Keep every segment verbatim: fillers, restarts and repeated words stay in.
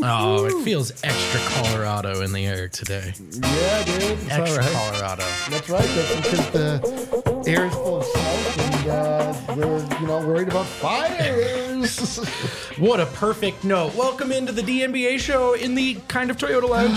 Oh, it feels extra Colorado in the air today. Yeah, dude. It's Extra all right. Colorado. That's right. That's because the air is full of smoke, and uh, we're you know worried about fires. What a perfect note. Welcome into the D N B A show in the kind of Toyota Lounge.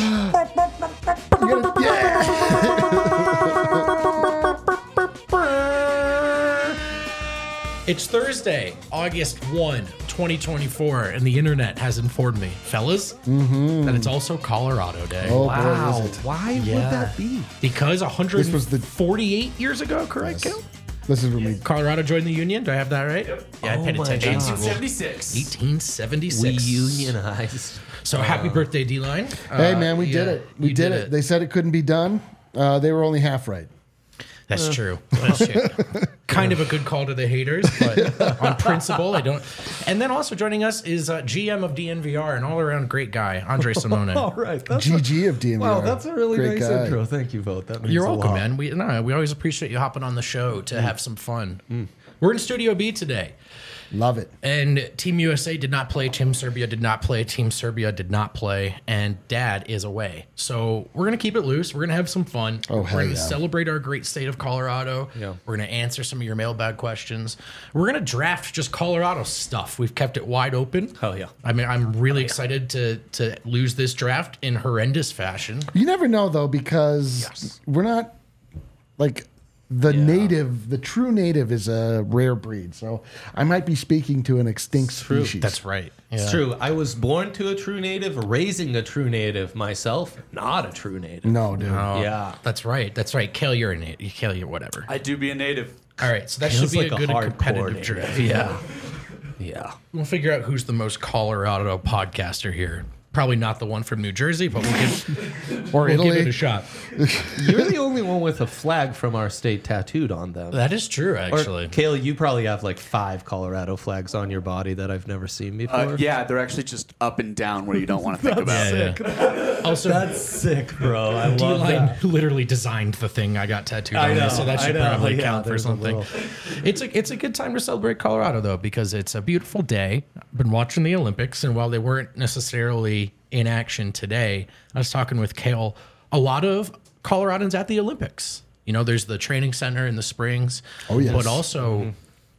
It's Thursday, August first, twenty twenty-four, and the internet has informed me, fellas, mm-hmm. that it's also Colorado Day. Oh, Wow. boy, is it. Why Yeah. would that be? Because one hundred forty-eight This was the- years ago, correct, Yes. Kel? This is when we. Colorado joined the Union. Do I have that right? Yep. Yeah, I Oh paid my attention. God. eighteen seventy-six. eighteen seventy-six. We unionized. So happy birthday, D-Line. Hey, Uh, man, we did yeah, it. We you did, it. They said it couldn't be done. Uh, they were only half right. That's true. That's true. Kind of a good call to the haters, but on principle, I don't. And then also joining us is uh, G M of D N V R, an all-around great guy, Andre Simone. All right. That's G G of D M V R. wow, that's a really Great nice guy. intro. Thank you, Vote. That means You're a welcome, lot. man. We no, we always appreciate you hopping on the show to have some fun. We're in Studio B today. Love it. And Team U S A did not play. Team Serbia did not play. Team Serbia did not play. And Dad is away. So we're going to keep it loose. We're going to have some fun. Oh, we're hell going to yeah. celebrate our great state of Colorado. Yeah. We're going to answer some of your mailbag questions. We're going to draft just Colorado stuff. We've kept it wide open. Hell yeah. I mean, I'm really excited to to lose this draft in horrendous fashion. You never know though, because Yes. we're not like the native. The true native is a rare breed, so I might be speaking to an extinct species. That's right. It's Yeah. true. I was born to a true native, raising a true native myself, not a true native. No, dude. Oh, Yeah. That's right. That's right. Kale, you're a native. Kale, you're whatever. I do be a native. All right. So that Kale's should be like a a good hardcore competitive native. draft. Yeah. Yeah. We'll figure out who's the most Colorado podcaster here. Probably not the one from New Jersey, but we'll give, Or we'll give it Italy. a shot. You're the only one with a flag from our state tattooed on them. That is true, Or, actually. Kale, you probably have like five Colorado flags on your body that I've never seen before. Uh, yeah, they're actually just up and down where you don't want to think about. Yeah, yeah. Also, That's sick, bro. I love D-Line that. literally designed the thing I got tattooed I on me, know, so that I should know. probably Yeah, count for there's a something. little- It's a it's a good time to celebrate Colorado though, because it's a beautiful day. I've been watching the Olympics, and while they weren't necessarily in action today, I was talking with Kale. A lot of Coloradans at the Olympics. You know, there's the training center in the Springs. Oh, yes. But also,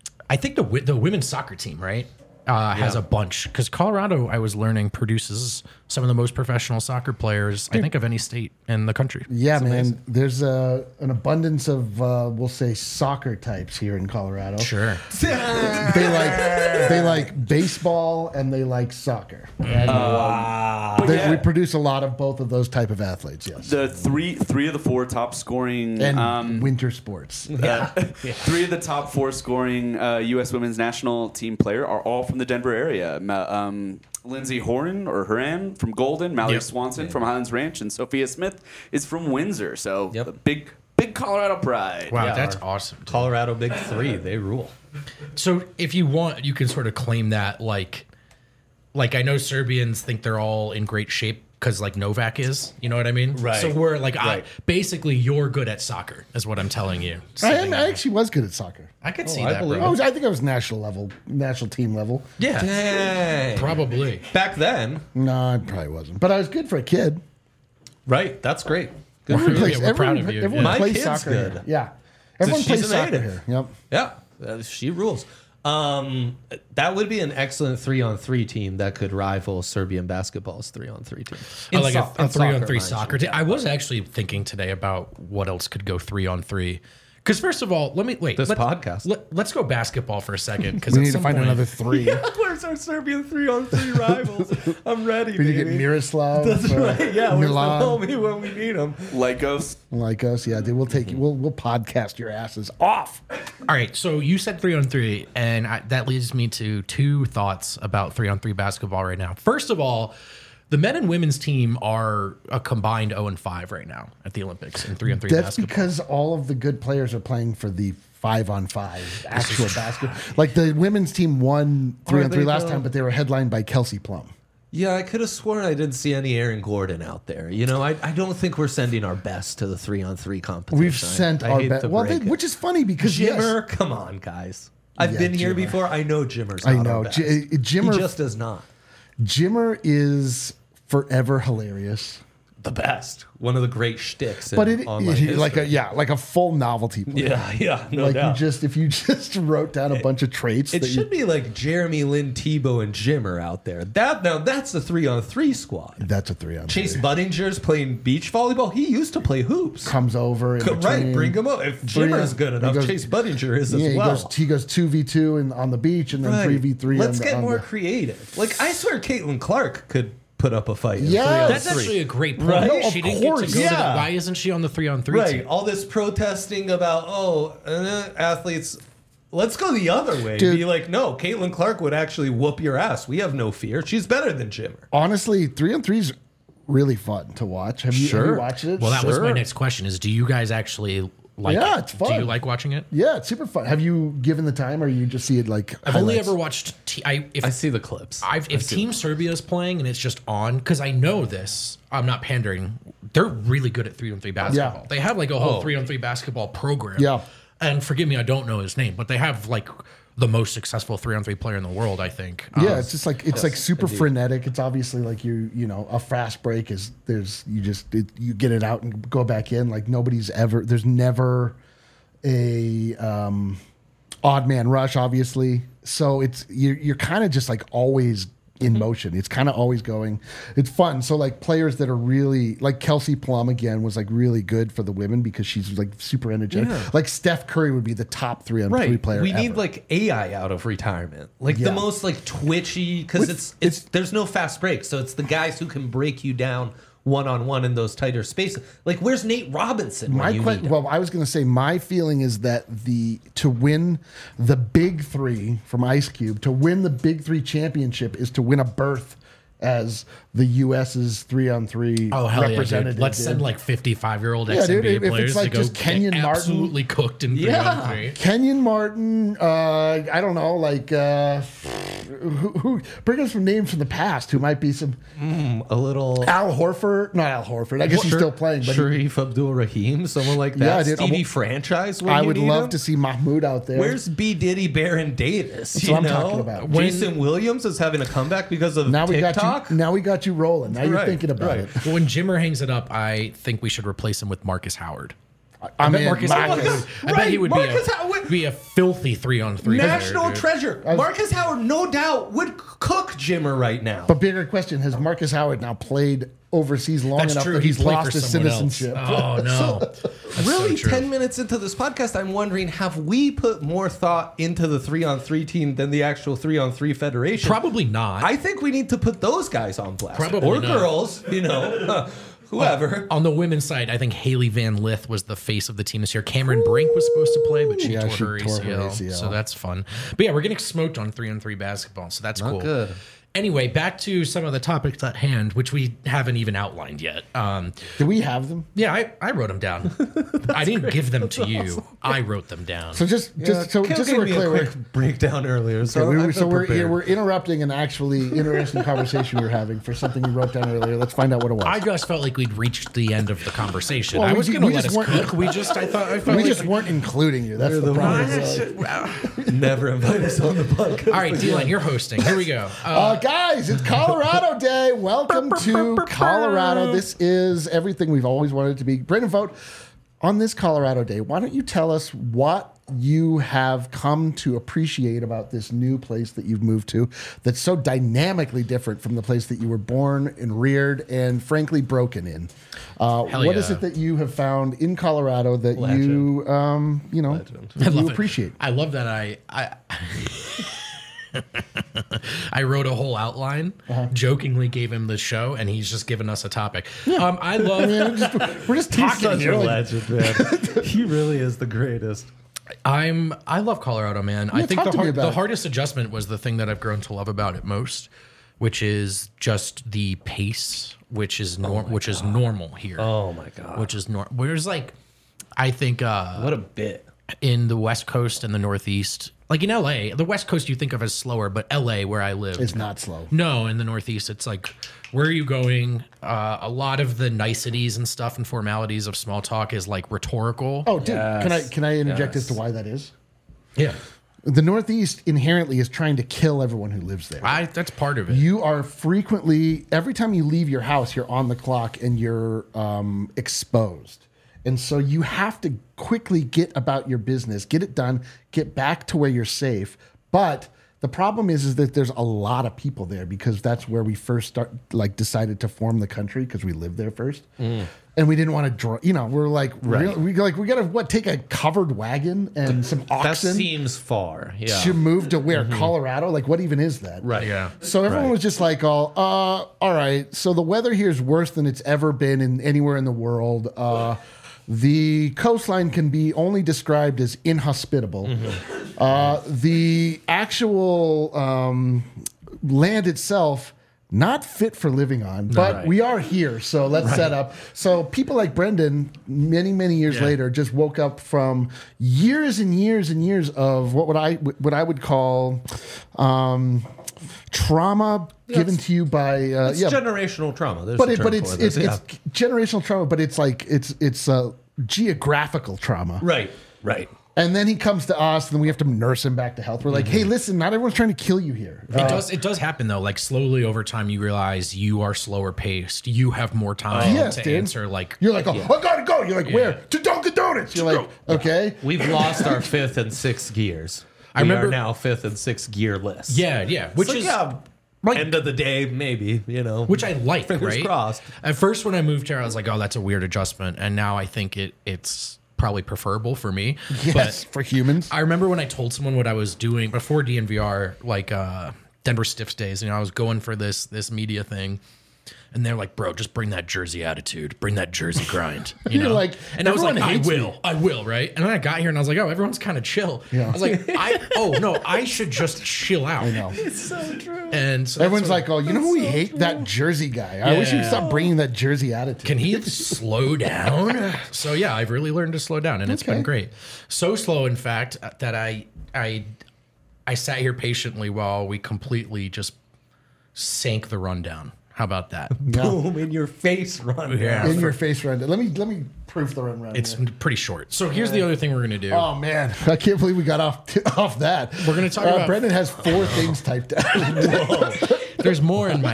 I think the wi- the women's soccer team, right, uh, has a bunch, because Colorado, I was learning, produces some of the most professional soccer players, I think, of any state in the country. Yeah, man. There's uh, an abundance of uh, we'll say soccer types here in Colorado. Sure. They like they like baseball and they like soccer. And, Wow. they- yeah. We produce a lot of both of those type of athletes. Yes. The three three of the four top scoring and um, winter sports. uh, three of the top four scoring uh, U S women's national team player are all from the Denver area. Ma- um, Lindsay Horan or Horan from Golden, Mallory Yep. Swanson from Highlands Ranch, and Sophia Smith is from Windsor. So Yep. a big big Colorado pride. Wow, Yeah, that's our awesome. dude. Colorado Big Three, they rule. So if you want, you can sort of claim that, like, like I know Serbians think they're all in great shape because like Novak is, you know what I mean? Right. So we're like, I, Right. basically, you're good at soccer, is what I'm telling you. I, am, I actually was good at soccer. I could see I that, believe I bro. was. I think I was national level, national team level. Yeah, Dang. probably. Back then, No, I probably wasn't. But I was good for a kid. right? That's great. Good Everyone for you. plays. we're proud everyone of you. everyone Yeah. My plays kid's soccer good. here. Yeah, everyone she's plays a soccer native. here. Yep. Yeah, uh, she rules. Um, that would be an excellent three-on-three team that could rival Serbian basketball's three-on-three team. I In like so- a, a in three on soccer, three mind you. soccer team. I was actually thinking today about what else could go three on three. Because first of all, let me wait. This let, podcast. Let, us go basketball for a second. Because We need to find another three. Where's our Serbian three-on-three rivals? I'm ready, We need to get Miroslav. That's or right. Yeah, where's the Milan. homie when we need him? Lycos. Like us, yeah, dude. We'll take you. We'll we'll podcast your asses off. All right, so you said three on three, and I, that leads me to two thoughts about three on three basketball right now. First of all, the men and women's team are a combined zero and five right now at the Olympics in three on three That's basketball. because all of the good players are playing for the five on five actual basketball. Like the women's team won three Are on three they last though? time, but they were headlined by Kelsey Plum. Yeah, I could have sworn I didn't see any Aaron Gordon out there. You know, I, I don't think we're sending our best to the three-on-three competition. We've I- sent I our hate best, to well, they, break it. which is funny because yes, Jimmer, come on, guys. I've Yeah, been here Jimmer. before. I know Jimmer's I not know. our best. J- Jimmer- he just does not. Jimmer is forever hilarious. The best. One of the great shticks. In But it, online it like a history. yeah, like a full novelty player. Yeah, yeah, no like doubt. you just if you just wrote down a bunch of traits It that should you, be like Jeremy Lin, Tebow, and Jimmer out there. That now that's the three on three squad. that's a three on Chase three. Buddinger's playing beach volleyball. He used to play hoops. Comes over in Co- Right, between. bring him up. If Three Jimmer's on- good he enough, goes- Chase Budinger is Yeah, as he well. goes he goes two v two and on the beach and then Right. three v three. Let's on get the, on more the, creative. Like I swear, Caitlin Clark could put up a fight. in Yeah. three on That's three. actually a great point. Right? No, she of didn't get course. to go to Yeah. that. Why isn't she on the three on three Right. team? All this protesting about, oh, uh, athletes, let's go the other way. Dude. Be like, no, Caitlin Clark would actually whoop your ass. We have no fear. She's better than Jimmer. honestly, three on three's really fun to watch. Have you, have Sure. you watched it? Well, that was my Sure. next question: is do you guys actually like? Yeah, it? it's fun. Do you like watching it? Yeah, it's super fun. Have you given the time, or you just see it like? I've only highlights? ever watched. T- I if I see the clips. I've, if Team Serbia is playing and it's just on, because I know this, I'm not pandering. They're really good at three on three basketball. Yeah. They have like a whole Oh. three on three basketball program. Yeah. And forgive me, I don't know his name, but they have like the most successful three on three player in the world, I think. Yeah, Um, it's just like it's like super frenetic. It's obviously like you you know a fast break is there's you just it, you get it out and go back in. Like nobody's ever there's never a um, odd man rush, obviously. So it's you're you're kind of just like always in motion. It's kind of always going. It's fun. So like players that are really like Kelsey Plum again was like really good for the women because she's like super energetic. Yeah. Like Steph Curry would be the top three on three Right. player. We ever. need like A I out of retirement. Like Yeah. the most like twitchy because With- it's, it's there's no fast breaks. So it's the guys who can break you down one on one in those tighter spaces. Like where's Nate Robinson? when My you question. need him? Well, I was going to say my feeling is that the to win the Big Three from Ice Cube to win the Big Three championship is to win a berth as the U S's three on three Oh hell yeah, representative. dude! Let's dude. send like fifty-five year old Yeah, ex N B A dude, if it's players like to go just Kenyon get Martin- absolutely cooked in three Yeah. on three. Kenyon Martin. Uh, I don't know, like uh, who, who bring us some names from the past who might be some a little Al Horford. Not Al Horford. I guess he's still playing, but he- Sharif Abdul Rahim, someone like that. Yeah, dude, Stevie I w- Franchise. Where I you would need love him? to see Mahmoud out there. Where's B Diddy Baron Davis? That's you what I'm know? talking about. Jason Williams is having a comeback because of now we TikTok. got you. Now we got you rolling. Now you're Right, thinking about right. it. Well, when Jimmer hangs it up, I think we should replace him with Marcus Howard. I bet mean, Marcus, Marcus- Howard, I bet Right, he would Marcus be, a, Howard- be a filthy three on three. National player, dude. treasure. was- Marcus Howard, no doubt, would cook Jimmer right now. But bigger question: has Marcus Howard now played overseas long That's enough true. that He he's played lost for his someone else. citizenship? Oh no! That's really, so true. ten minutes into this podcast, I'm wondering, have we put more thought into the three on three team than the actual three on three federation? Probably not. I think we need to put those guys on blast. Probably or not. girls, you know, whoever. On the women's side, I think Haley Van Lith was the face of the team this year. Cameron Brink was supposed to play, but she, Yeah, tore, she her tore her A C L, A C L. so that's fun. But yeah, we're getting smoked on three on three basketball, so that's cool. good. Anyway, back to some of the topics at hand, which we haven't even outlined yet. Um, Do we have them? yeah, I, I wrote them down. I didn't give them to you. I wrote them down. So just, just so Kale just so gave we're me clear, a we're, quick breakdown earlier, so, we were- I've so been we're prepared. we're interrupting an actually interesting conversation we were having for something you wrote down earlier. Let's find out what it was. I just felt like we'd reached the end of the conversation. Well, I we was ju- going to we let just us weren't- cook. We just, I thought, I felt we like just weren't including you. That's the, problem. Never invite us on the podcast. All right, D-Line, you're hosting. Here we go. Uh, Uh, guys, it's Colorado Day. Welcome to Colorado. This is everything we've always wanted it to be. Brandon Vogt, on this Colorado Day, why don't you tell us what you have come to appreciate about this new place that you've moved to that's so dynamically different from the place that you were born and reared and frankly broken in? Uh, Hell what is yeah. it that you have found in Colorado that Legend. you, um, you know, that I you love it. appreciate? I love that I I I wrote a whole outline, Uh-huh. jokingly gave him the show, and he's just given us a topic. Um, I love. We're just, we're just He's talking such here. a like- legend, man. He really is the greatest. I'm. I love Colorado, man. I Yeah, think talk the to me hard, about the it. hardest adjustment was the thing that I've grown to love about it most, which is just the pace, which is norm, which is normal here. Oh my god. Which is normal. Whereas, like, I think uh, What a bit. in the West Coast and the Northeast, like in L A, the West Coast you think of as slower, but L A, where I live, It's not slow. No, in the Northeast, it's like, where are you going? Uh, a lot of the niceties and stuff and formalities of small talk is like rhetorical. Oh, dude, can I Yes. can I interject as Yes. to why that is? yeah. The Northeast inherently is trying to kill everyone who lives there. I, that's part of it. You are frequently, every time you leave your house, you're on the clock and you're um, exposed. And so you have to quickly get about your business, get it done, get back to where you're safe. But the problem is, is that there's a lot of people there because that's where we first start, like decided to form the country because we lived there first. Mm. And we didn't want to draw, you know, we're like, Right. real, we like, we got to what, take a covered wagon and some That oxen seems far. Yeah. to move to where, Colorado? Like, what even is that? Right. Yeah. So everyone Right. was just like, "Oh, uh, all right. So the weather here is worse than it's ever been in anywhere in the world. Uh, the coastline can be only described as inhospitable. Mm-hmm. Uh, the actual um, land itself." Not fit for living on, but Right. we are here, so let's set up. So people like Brendan, many many years Yeah. later, just woke up from years and years and years of what would I what I would call um, trauma given it's- to you by uh, It's yeah, generational trauma. There's but a it, term but it's for it's, this, it's generational trauma, but it's like it's it's uh, geographical trauma. yeah. right. Right. And then he comes to us, and then we have to nurse him back to health. We're like, Mm-hmm. hey, listen, not everyone's trying to kill you here. It Uh, does. It does happen though. Like slowly over time, you realize you are slower paced. You have more time Yes, to dude. answer. Like You're like, oh, I gotta go. You're like, where? To Dunkin' Donuts. You're like, okay. We've lost our fifth and sixth gears. I we remember- are now fifth and sixth gearless. yeah, yeah. Which Which is yeah, like- end of the day, maybe, you know. which I like. Fingers right? crossed. At first, when I moved here, I was like, oh, that's a weird adjustment, and now I think it it's probably preferable for me. Yes, But for humans. I remember when I told someone what I was doing before D N V R, like uh, Denver Stiffs days. You know, I was going for this this media thing, and they're like, "Bro, just bring that Jersey attitude, bring that Jersey grind." You You're know, like, and I was like, "Everyone "I hates will, me." I will," right? And then I got here, and I was like, "Oh, everyone's kind of chill." Yeah. I was like, "I oh no, I should just chill out." I know. It's so true. And so that's Everyone's what- like, oh, you know who we hate? That Jersey guy. I wish he'd Yeah. stop bringing that Jersey attitude. Can he slow down? So yeah, I've really learned to slow down, and it's Okay. been great. So slow, in fact, that I I I sat here patiently while we completely just sank the rundown. How about that? Boom in your face, run. Yeah. In your face run. Let me let me proof the run run. It's here. pretty short. So here's the other thing we're gonna do. Oh man, I can't believe we got off off that. We're gonna talk Uh, about- Brendan has four things typed out. There's more in my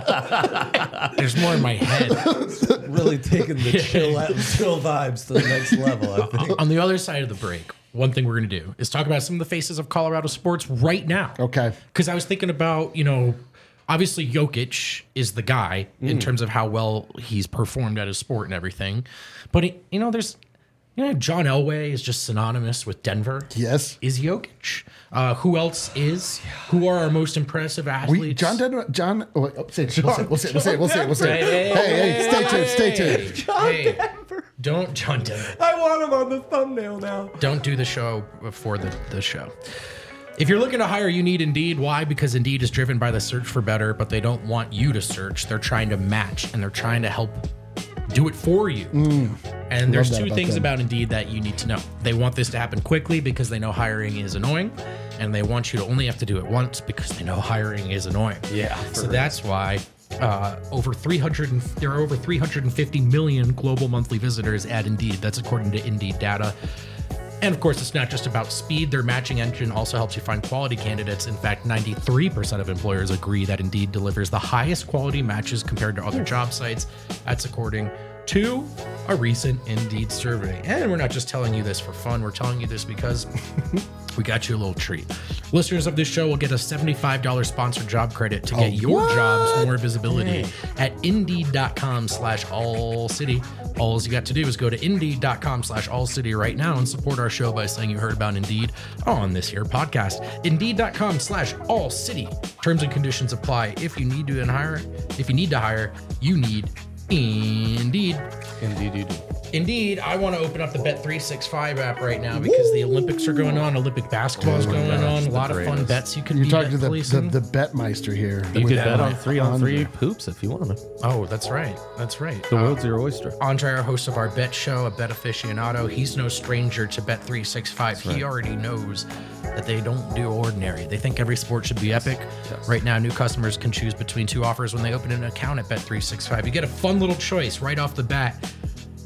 head. There's more in my head. Really taking the chill, chill vibes to the next level, I think. On the other side of the break, one thing we're gonna do is talk about some of the faces of Colorado sports right now. Okay. Because I was thinking about, you know, obviously Jokic is the guy in terms of how well he's performed at his sport and everything. But, it, you know, there's, you know, John Elway is just synonymous with Denver. Yes. Is Jokic. Uh, who else is? Who are our most impressive athletes? We, John Denver, John, oh, wait, oh, say it, we'll say it, we'll say it, we'll say it, we'll say it, we'll say it. Hey, Hey, hey, stay tuned, stay tuned. John Hey, Denver. don't, John Denver. I want him on the thumbnail now. Don't do the show before the, the show. If you're looking to hire, you need Indeed. Why? Because Indeed is driven by the search for better, but they don't want you to search. They're trying to match, and they're trying to help do it for you. And there's that two about things them. about Indeed that you need to know. They want this to happen quickly because they know hiring is annoying, and they want you to only have to do it once because they know hiring is annoying. Yeah, So for real. that's why uh, over three hundred and, there are over three hundred fifty million global monthly visitors at Indeed. That's according to Indeed data. And of course, it's not just about speed. Their matching engine also helps you find quality candidates. In fact, ninety-three percent of employers agree that Indeed delivers the highest quality matches compared to other job sites. That's according to a recent Indeed survey. And we're not just telling you this for fun. We're telling you this because we got you a little treat. Listeners of this show will get a seventy-five dollars sponsored job credit to get your jobs more visibility at indeed.com slash all city. All you got to do is go to indeed.com slash all city right now and support our show by saying you heard about Indeed on this here podcast. Indeed.com slash all city. Terms and conditions apply. If you need to hire, if you need to hire, you need Indeed. Indeed, you do. Indeed, I want to open up the Bet three sixty-five app right now because the Olympics are going on. Olympic basketball is going on. A lot of fun greatest. bets you can You're be talking to bet the, the, policing. the Betmeister here. You could With bet on that three on three Andre. poops if you want to. Oh, that's right. That's right. The Uh, world's your oyster. Andre, our host of our bet show, a bet aficionado, he's no stranger to Bet three sixty-five. He already knows that they don't do ordinary. They think every sport should be epic. Right now, new customers can choose between two offers when they open an account at Bet three sixty-five. You get a fun little choice right off the bat.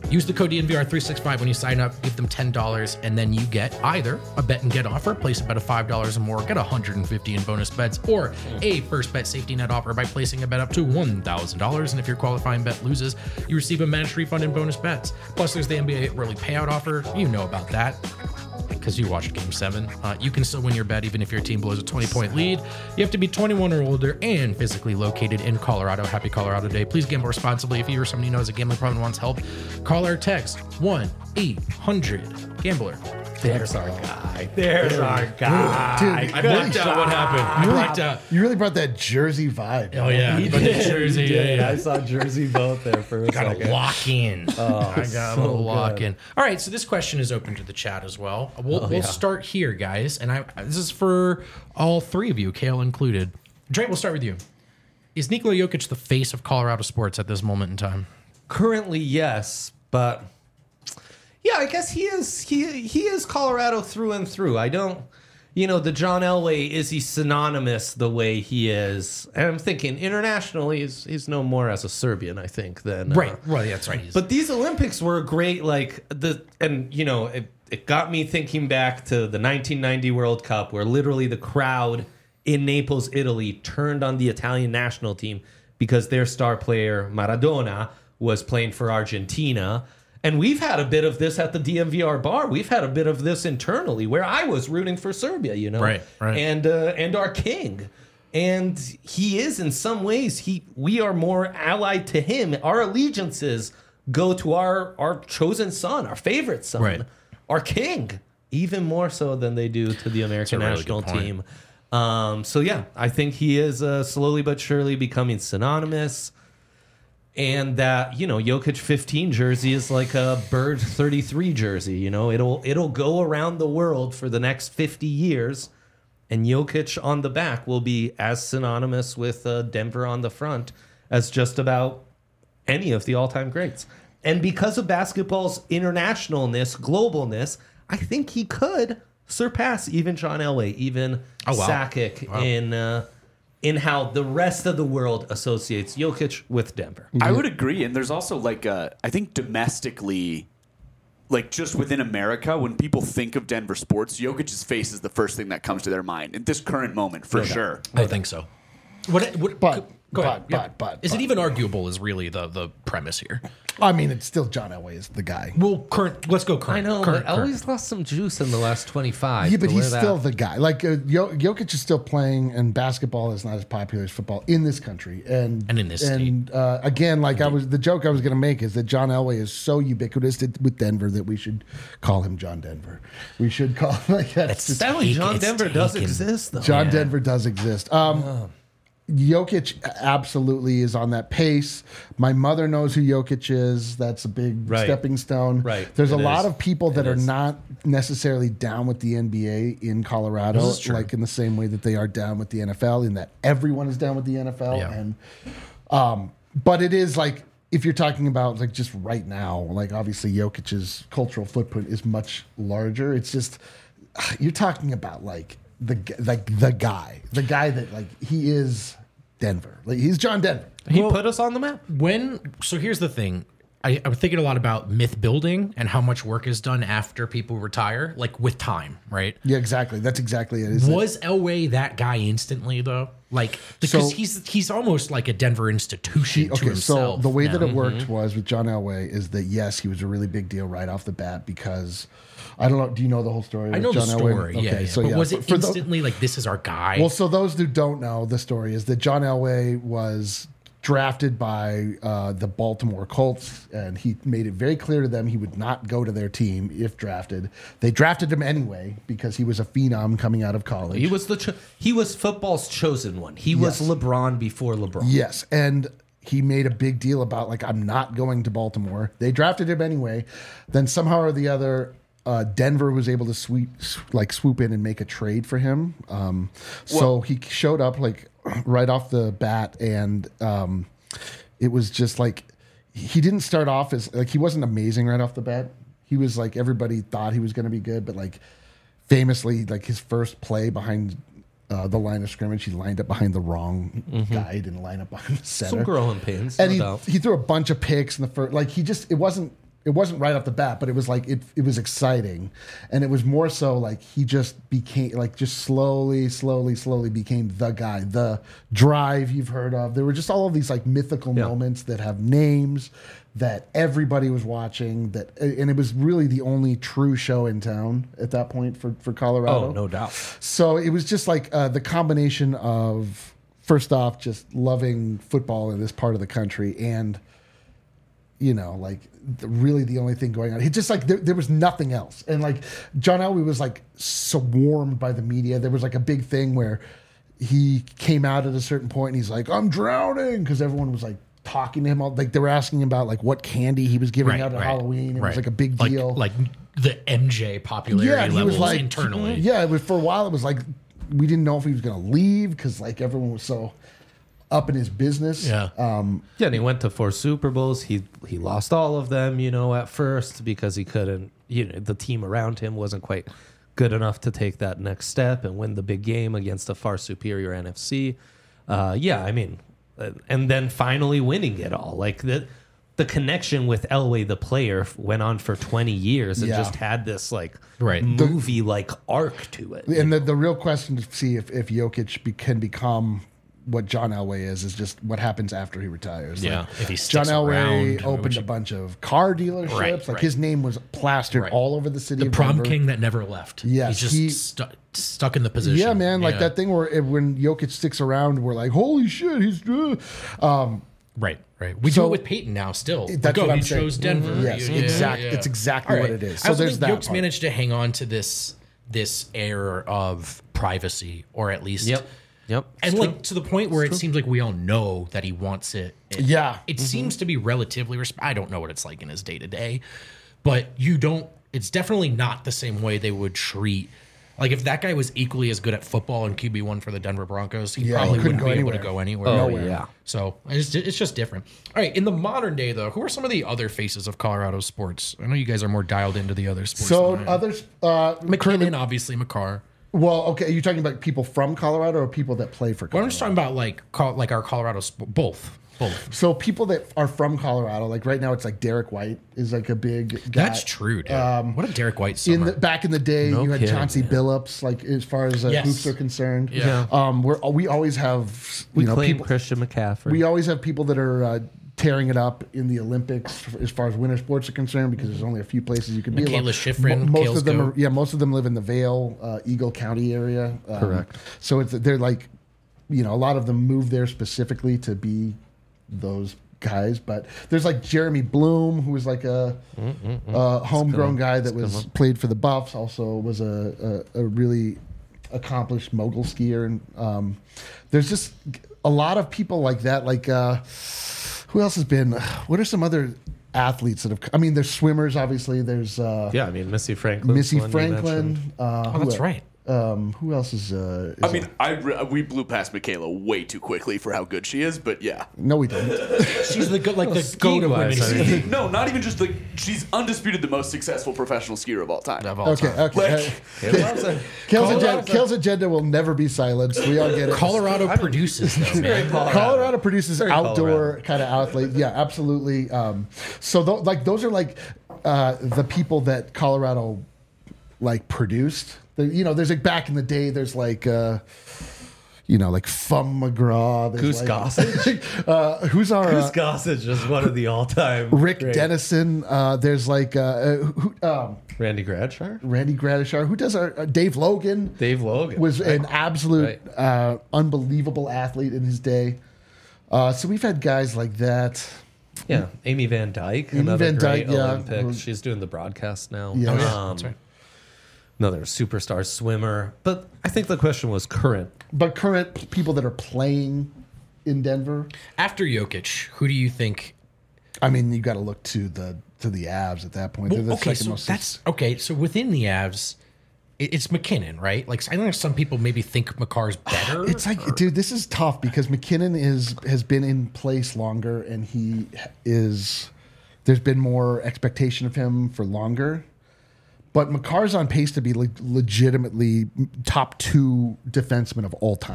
Use the code D N V R three sixty-five when you sign up. Give them ten dollars, and then you get either a bet and get offer, place a bet of five dollars or more, get one hundred fifty in bonus bets, or a first bet safety net offer by placing a bet up to one thousand dollars. And if your qualifying bet loses, you receive a match refund in bonus bets. Plus, there's the N B A early payout offer. You know about that because you watched Game seven. Uh, you can still win your bet even if your team blows a twenty-point lead. You have to be twenty-one or older and physically located in Colorado. Happy Colorado Day. Please gamble responsibly. If you or somebody you know has a gambling problem and wants help, call or text one eight hundred gambler. There's our guy. There's our guy. Dude, I blacked out what happened. I you, blacked really, out. you really brought that Jersey vibe. Oh, yeah. He But the did, Jersey, he did. yeah, yeah. I saw Jersey both there for a Got second. to lock in. Oh, I got so to lock good. in. All right, so this question is open to the chat as well. We'll, Oh, we'll yeah. start here, guys, and I this is for all three of you, Kale included. Dre, we'll start with you. Is Nikola Jokic the face of Colorado sports at this moment in time? Currently, yes, but yeah, I guess he is. He he is Colorado through and through. I don't, you know, the John Elway, is he synonymous the way he is? And I'm thinking internationally, he's he's no more as a Serbian, I think, than uh, Right, right, that's right. But these Olympics were great, like the and you know it, it got me thinking back to the nineteen ninety World Cup, where literally the crowd in Naples, Italy, turned on the Italian national team because their star player Maradona was playing for Argentina. And we've had a bit of this at the D M V R bar. We've had a bit of this internally, where I was rooting for Serbia, you know, Right, right. and uh, and our king. And he is, in some ways, he we are more allied to him. Our allegiances go to our our chosen son, our favorite son, Right. our king, even more so than they do to the American really national good point. team. Um, so yeah, I think he is uh, slowly but surely becoming synonymous. And that, you know, Jokic fifteen jersey is like a Bird thirty-three jersey. You know, it'll it'll go around the world for the next fifty years, and Jokic on the back will be as synonymous with uh, Denver on the front as just about any of the all-time greats. And because of basketball's internationalness, globalness, I think he could surpass even John Elway, even Oh, wow. Sakic Wow. in uh, in how the rest of the world associates Jokic with Denver. I would agree, and there's also like uh, I think domestically, like just within America, when people think of Denver sports, Jokic's face is the first thing that comes to their mind at this current moment, for sure. I think so. What, what, But- go but- ahead. Yeah. but- but- Is it but- even arguable is really the, the premise here. I mean, it's still John Elway is the guy. Well, current, let's go I current. know, current, but Elway's lost some juice in the last twenty-five. Yeah, but to he's where still that- the guy. Like uh, Jo- Jokic is still playing, and basketball is not as popular as football in this country, and And in this and uh, again, like I was, the joke I was going to make is that John Elway is so ubiquitous to, with Denver that we should call him John Denver. We should call him like that's That's just- Sadly, Take- John it's Denver does taken. exist, though. John yeah. Denver does exist. Um, Jokic absolutely is on that pace. My mother knows who Jokic is. That's a big Right. stepping stone. Right. There's a It lot is. of people that It are is. not necessarily down with the N B A in Colorado, This is true. like in the same way that they are down with the N F L, in that everyone is down with the N F L. Yeah. And um, but it is like, if you're talking about like just right now, like obviously Jokic's cultural footprint is much larger. It's just you're talking about like the g- like the guy, the guy that like he is Denver. Like he's John Denver. He Well- put us on the map. When so here's the thing. I, I'm thinking a lot about myth building and how much work is done after people retire, like with time, right? Yeah, exactly. That's exactly it. Is Was Elway that guy instantly though? Like because So- he's he's almost like a Denver institution He- to okay, himself. so the way that now. it worked was with John Elway is that yes, he was a really big deal right off the bat because I don't know. Do you know the whole story? I with know John the Elway? story, yeah, yeah. but was for- it for tho- instantly like this is our guy? well, so those who don't know the story is that John Elway was drafted by uh, the Baltimore Colts, and he made it very clear to them he would not go to their team if drafted. They drafted him anyway because he was a phenom coming out of college. He was the cho- he was football's chosen one. He was Yes. LeBron before LeBron. Yes, and he made a big deal about like I'm not going to Baltimore. They drafted him anyway. Then somehow or the other, uh, Denver was able to sweep like swoop in and make a trade for him. Um, so he showed up like right off the bat, and um, it was just like he didn't start off as like he wasn't amazing right off the bat. He was like everybody thought he was going to be good, but like famously, like his first play behind uh, the line of scrimmage, he lined up behind the wrong guy, didn't line up behind the center. Some growing pains. and no he doubt. he threw a bunch of picks in the first. Like he just it wasn't it wasn't right off the bat, but it was like it it was exciting, and it was more so like he just became like just slowly, slowly, slowly became the guy, the Drive you've heard of. There were just all of these like mythical Yeah. moments that have names that everybody was watching. That and it was really the only true show in town at that point for for Colorado. Oh, no doubt. So it was just like uh, the combination of first off just loving football in this part of the country and. You know, like the, really the only thing going on. He just like there, there was nothing else, and like John Elway was like swarmed by the media. There was like a big thing where he came out at a certain point and he's like, "I'm drowning," because everyone was like talking to him. All, like they were asking him about like what candy he was giving Right, out at right, Halloween. It right. was like a big Like- deal. Like, the M J popularity he levels was like internally. Yeah, it was for a while. It was like we didn't know if he was going to leave because like everyone was so up in his business. Yeah. Um, Yeah, and he went to four Super Bowls. He he lost all of them, you know, at first because he couldn't, you know, the team around him wasn't quite good enough to take that next step and win the big game against a far superior N F C. Uh, yeah, I mean, uh, and then finally winning it all. Like the the connection with Elway, the player, f- went on for twenty years and Yeah. just had this like Right. movie like arc to it. And the, the real question to see if, if Jokic be, can become what John Elway is, is just what happens after he retires. Yeah, Like, if he John sticks Elway around, opened which- a bunch of car dealerships. Right, like right. his name was plastered Right. all over the city The of prom Denver. king that never left. Yes, He's just he- stu- stuck in the position. Yeah, man. Like Yeah. that thing where it, when Jokic sticks around, we're like, holy shit, he's. Uh. Um, Right, right. We So- do it with Peyton now still. That's like, oh, what I'm you saying. chose Denver. Mhm. Yes, You- exact- it's exactly All what it is. I So also there's think that Yoke's part. managed to hang on to this this air of privacy, or at least Yep. Yep. and It's like true. to the point where it seems like we all know that he wants it. It- Yeah. it seems to be relatively. Resp- I don't know what it's like in his day to day, but you don't. It's definitely not the same way they would treat. Like if that guy was equally as good at football and Q B one for the Denver Broncos, he Yeah, he probably couldn't wouldn't go be anywhere. able to go anywhere. Oh, Nowhere. yeah. So it's, it's just different. All right, in the modern day, though, who are some of the other faces of Colorado sports? I know you guys are more dialed into the other sports. So than I am. others. Uh, McKinnon, obviously, McCarr. well, okay. Are you talking about people from Colorado or people that play for Well, Colorado? I'm just talking about like Col- like our Colorado sp- both, both. So people that are from Colorado, like right now, it's like Derek White is like a big guy. That's true, dude. what a Derek White summer. In the, back in the day, No you had kidding, Chauncey man. Billups, like as far as uh, Yes. hoops are concerned. Yeah. Um, we're we always have you We know claim people. Christian McCaffrey. We always have people that are uh, tearing it up in the Olympics as far as winter sports are concerned because there's only a few places you can be. Michaela Mo- Schifrin, most Kales of them, Go. are, yeah, most of them live in the Vale, uh, Eagle County area. Um, Correct. So it's they're like, you know, a lot of them move there specifically to be those guys. But there's like Jeremy Bloom, who was like a, a homegrown guy that was played for the Buffs. Also was a, a, a really accomplished mogul skier, and um, there's just a lot of people like that. Like uh, who else has been? What are some other athletes that have? I mean, there's swimmers, obviously. There's uh, yeah, I mean Missy Franklin. Missy one you Franklin. mentioned. Uh, oh, who that's el- right. Um, who else is? Uh, is I mean, I re- we blew past Michaela way too quickly for how good she is, but yeah. no, we don't. She's the good, like the skiing goat of wise, women. I mean- skiing. No, not even just like she's undisputed the most successful professional skier of all time. Of all Okay, time. okay. Like- Uh, Kale's, agenda, Kale's agenda will never be silenced. We all get it. Colorado produces though, man. Colorado produces Very outdoor Colorado. kind of athlete. Yeah, absolutely. Um, so th- like those are like uh, the people that Colorado like produced. The, you know, there's like back in the day. There's like. Uh, you know, like Fum McGraw. there's Goose like, Gossage. uh, who's our Goose uh, Gossage is one of the all-time. Rick great- Dennison? Uh, there's like uh, uh, who, um, Randy Gradshire, Randy Gradishar. Who does our uh, Dave Logan? Dave Logan was an absolute Right. uh, unbelievable athlete in his day. Uh, so we've had guys like that. Yeah, Amy Van Dyke, Amy another Van great Dyke, yeah. Olympic. Who- She's doing the broadcast now. Yeah. Oh, yeah, Um, That's right. Another superstar swimmer. But I think the question was current. But current p- people that are playing in Denver, After Jokic, who do you think? I mean, you got to look to the to the Avs at that point. They're the okay, second so most. that's okay. So within the Avs, it- it's McKinnon, right? Like I know some people maybe think McCarr's better. It's like, dude, this is tough because McKinnon is has been in place longer, and he is. There's been more expectation of him for longer, but McCarr's on pace to be like legitimately top two defenseman of all time.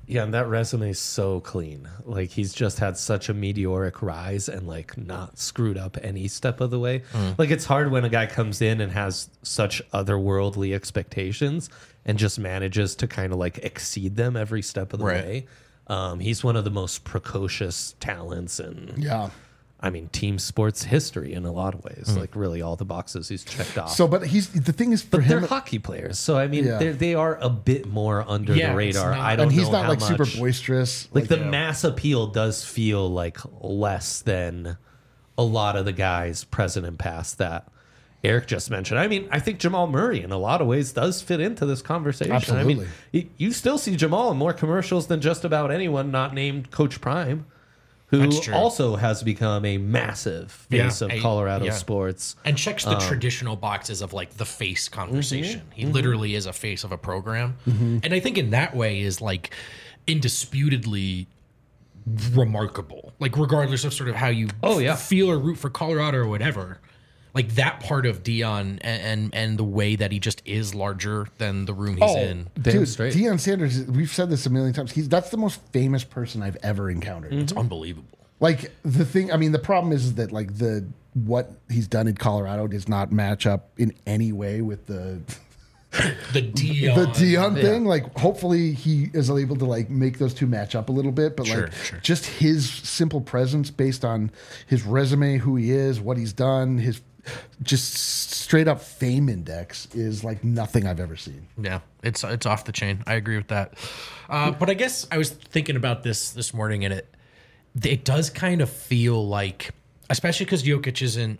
Yeah, and that resume is so clean. Like he's just had such a meteoric rise and like not screwed up any step of the way. Mm. Like it's hard when a guy comes in and has such otherworldly expectations and just manages to kind of like exceed them every step of the right. way. Um, he's one of the most precocious talents and yeah. I mean, team sports history in a lot of ways. Mm. Like really all the boxes he's checked off. So, but he's the thing is for but him, they're hockey players. So I mean, yeah. they're, they are a bit more under yeah, the radar. Not, I don't and he's know not how like much, super boisterous. Like, like the yeah. mass appeal does feel like less than a lot of the guys present and past that Eric just mentioned. I mean, I think Jamal Murray in a lot of ways does fit into this conversation. Absolutely. I mean, you still see Jamal in more commercials than just about anyone not named Coach Prime, who also has become a massive face yeah, of I, Colorado yeah. sports. And checks the um, traditional boxes of like the face conversation. Mm-hmm, he mm-hmm. literally is a face of a program. Mm-hmm. And I think in that way is like indisputably remarkable. Like regardless of sort of how you oh, yeah. feel or root for Colorado or whatever. Like that part of Dion and, and and the way that he just is larger than the room he's oh, in. Damn dude, straight. Deion Sanders, we've said this a million times. He's that's the most famous person I've ever encountered. It's unbelievable. Like the thing, I mean, the problem is that like the what he's done in Colorado does not match up in any way with the The Dion. the Dion Yeah. thing. Like, hopefully he is able to like make those two match up a little bit. But Sure, like, sure. just his simple presence based on his resume, who he is, what he's done, his just straight up fame index is like nothing I've ever seen. Yeah, it's it's off the chain. I agree with that. Uh, but I guess I was thinking about this this morning, and it it does kind of feel like, especially because Jokic isn't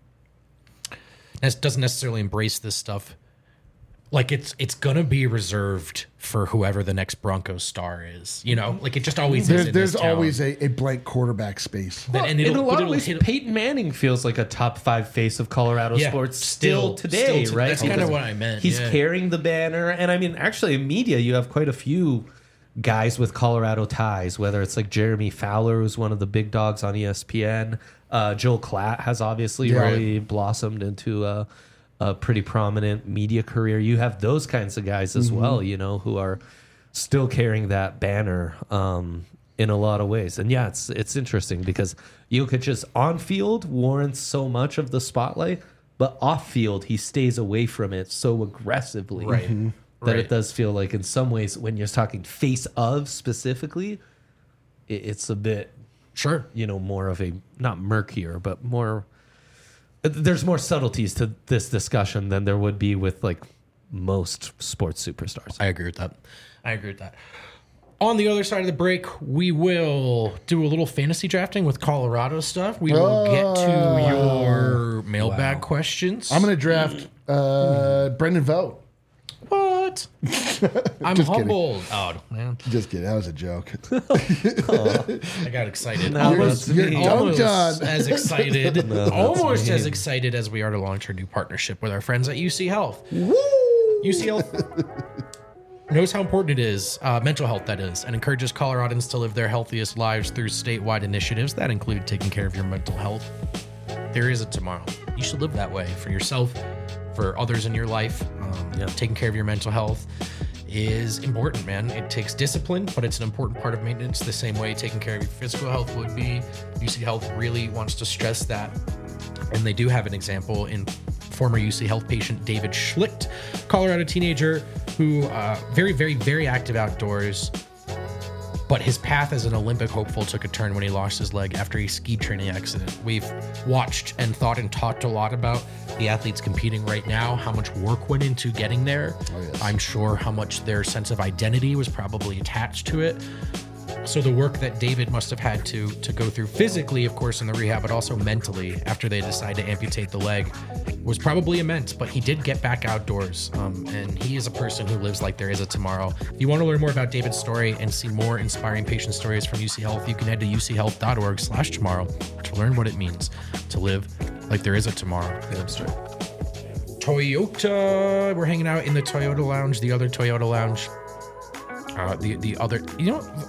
doesn't necessarily embrace this stuff. Like it's it's gonna be reserved for whoever the next Broncos star is. You know, like it just always is. There's, in there's this town. always a, a blank quarterback space. That- and in it'll- a lot but of it'll ways, hit- Peyton Manning feels like a top five face of Colorado Yeah, sports still- still, today, still to- right? that's kinda Because what I meant, He's yeah. carrying the banner, and I mean, actually, in media, you have quite a few guys with Colorado ties. Whether it's like Jeremy Fowler, who's one of the big dogs on E S P N, uh, Joel Klatt has obviously Yeah. really blossomed into a, a pretty prominent media career. You have those kinds of guys as Mm-hmm. well, you know, who are still carrying that banner um, in a lot of ways. And yeah, it's it's interesting because Jokic's on field warrants so much of the spotlight, but off field he stays away from it so aggressively Right. Mhm. that Right. it does feel like in some ways when you're talking face of specifically, it, it's a bit Sure. you know more of a not murkier but more. There's more subtleties to this discussion than there would be with like most sports superstars. I agree with that. I agree with that. On the other side of the break, we will do a little fantasy drafting with Colorado stuff. We will get to your mailbag questions. I'm going to draft uh, Brendan Vogt. What? I'm Just kidding. humbled. Oh, man. Just kidding. That was a joke. I got excited. Now almost that's me. You're almost dunked on. as excited. No, that's almost me. as excited as we are to launch our new partnership with our friends at U C Health. U C Health knows how important it is, uh, mental health that is, and encourages Coloradans to live their healthiest lives through statewide initiatives that include taking care of your mental health. There is a tomorrow. You should live that way for yourself, for others in your life. Um, Yeah. Taking care of your mental health is important, man. It takes discipline, but it's an important part of maintenance the same way taking care of your physical health would be. U C Health really wants to stress that. And they do have an example in former U C Health patient David Schlicht, Colorado teenager who uh, very, very, very active outdoors. But his path as an Olympic hopeful took a turn when he lost his leg after a ski training accident. We've watched and thought and talked a lot about the athletes competing right now, how much work went into getting there. Oh, yes. I'm sure how much their sense of identity was probably attached to it. So the work that David must have had to to go through physically, of course, in the rehab, but also mentally after they decided to amputate the leg was probably immense. But he did get back outdoors, um, and he is a person who lives like there is a tomorrow. If you want to learn more about David's story and see more inspiring patient stories from U C Health, you can head to u c health dot org slash tomorrow to learn what it means to live like there is a tomorrow. Toyota, we're hanging out in the Toyota Lounge, the other Toyota Lounge. Uh, the the other, you know, I,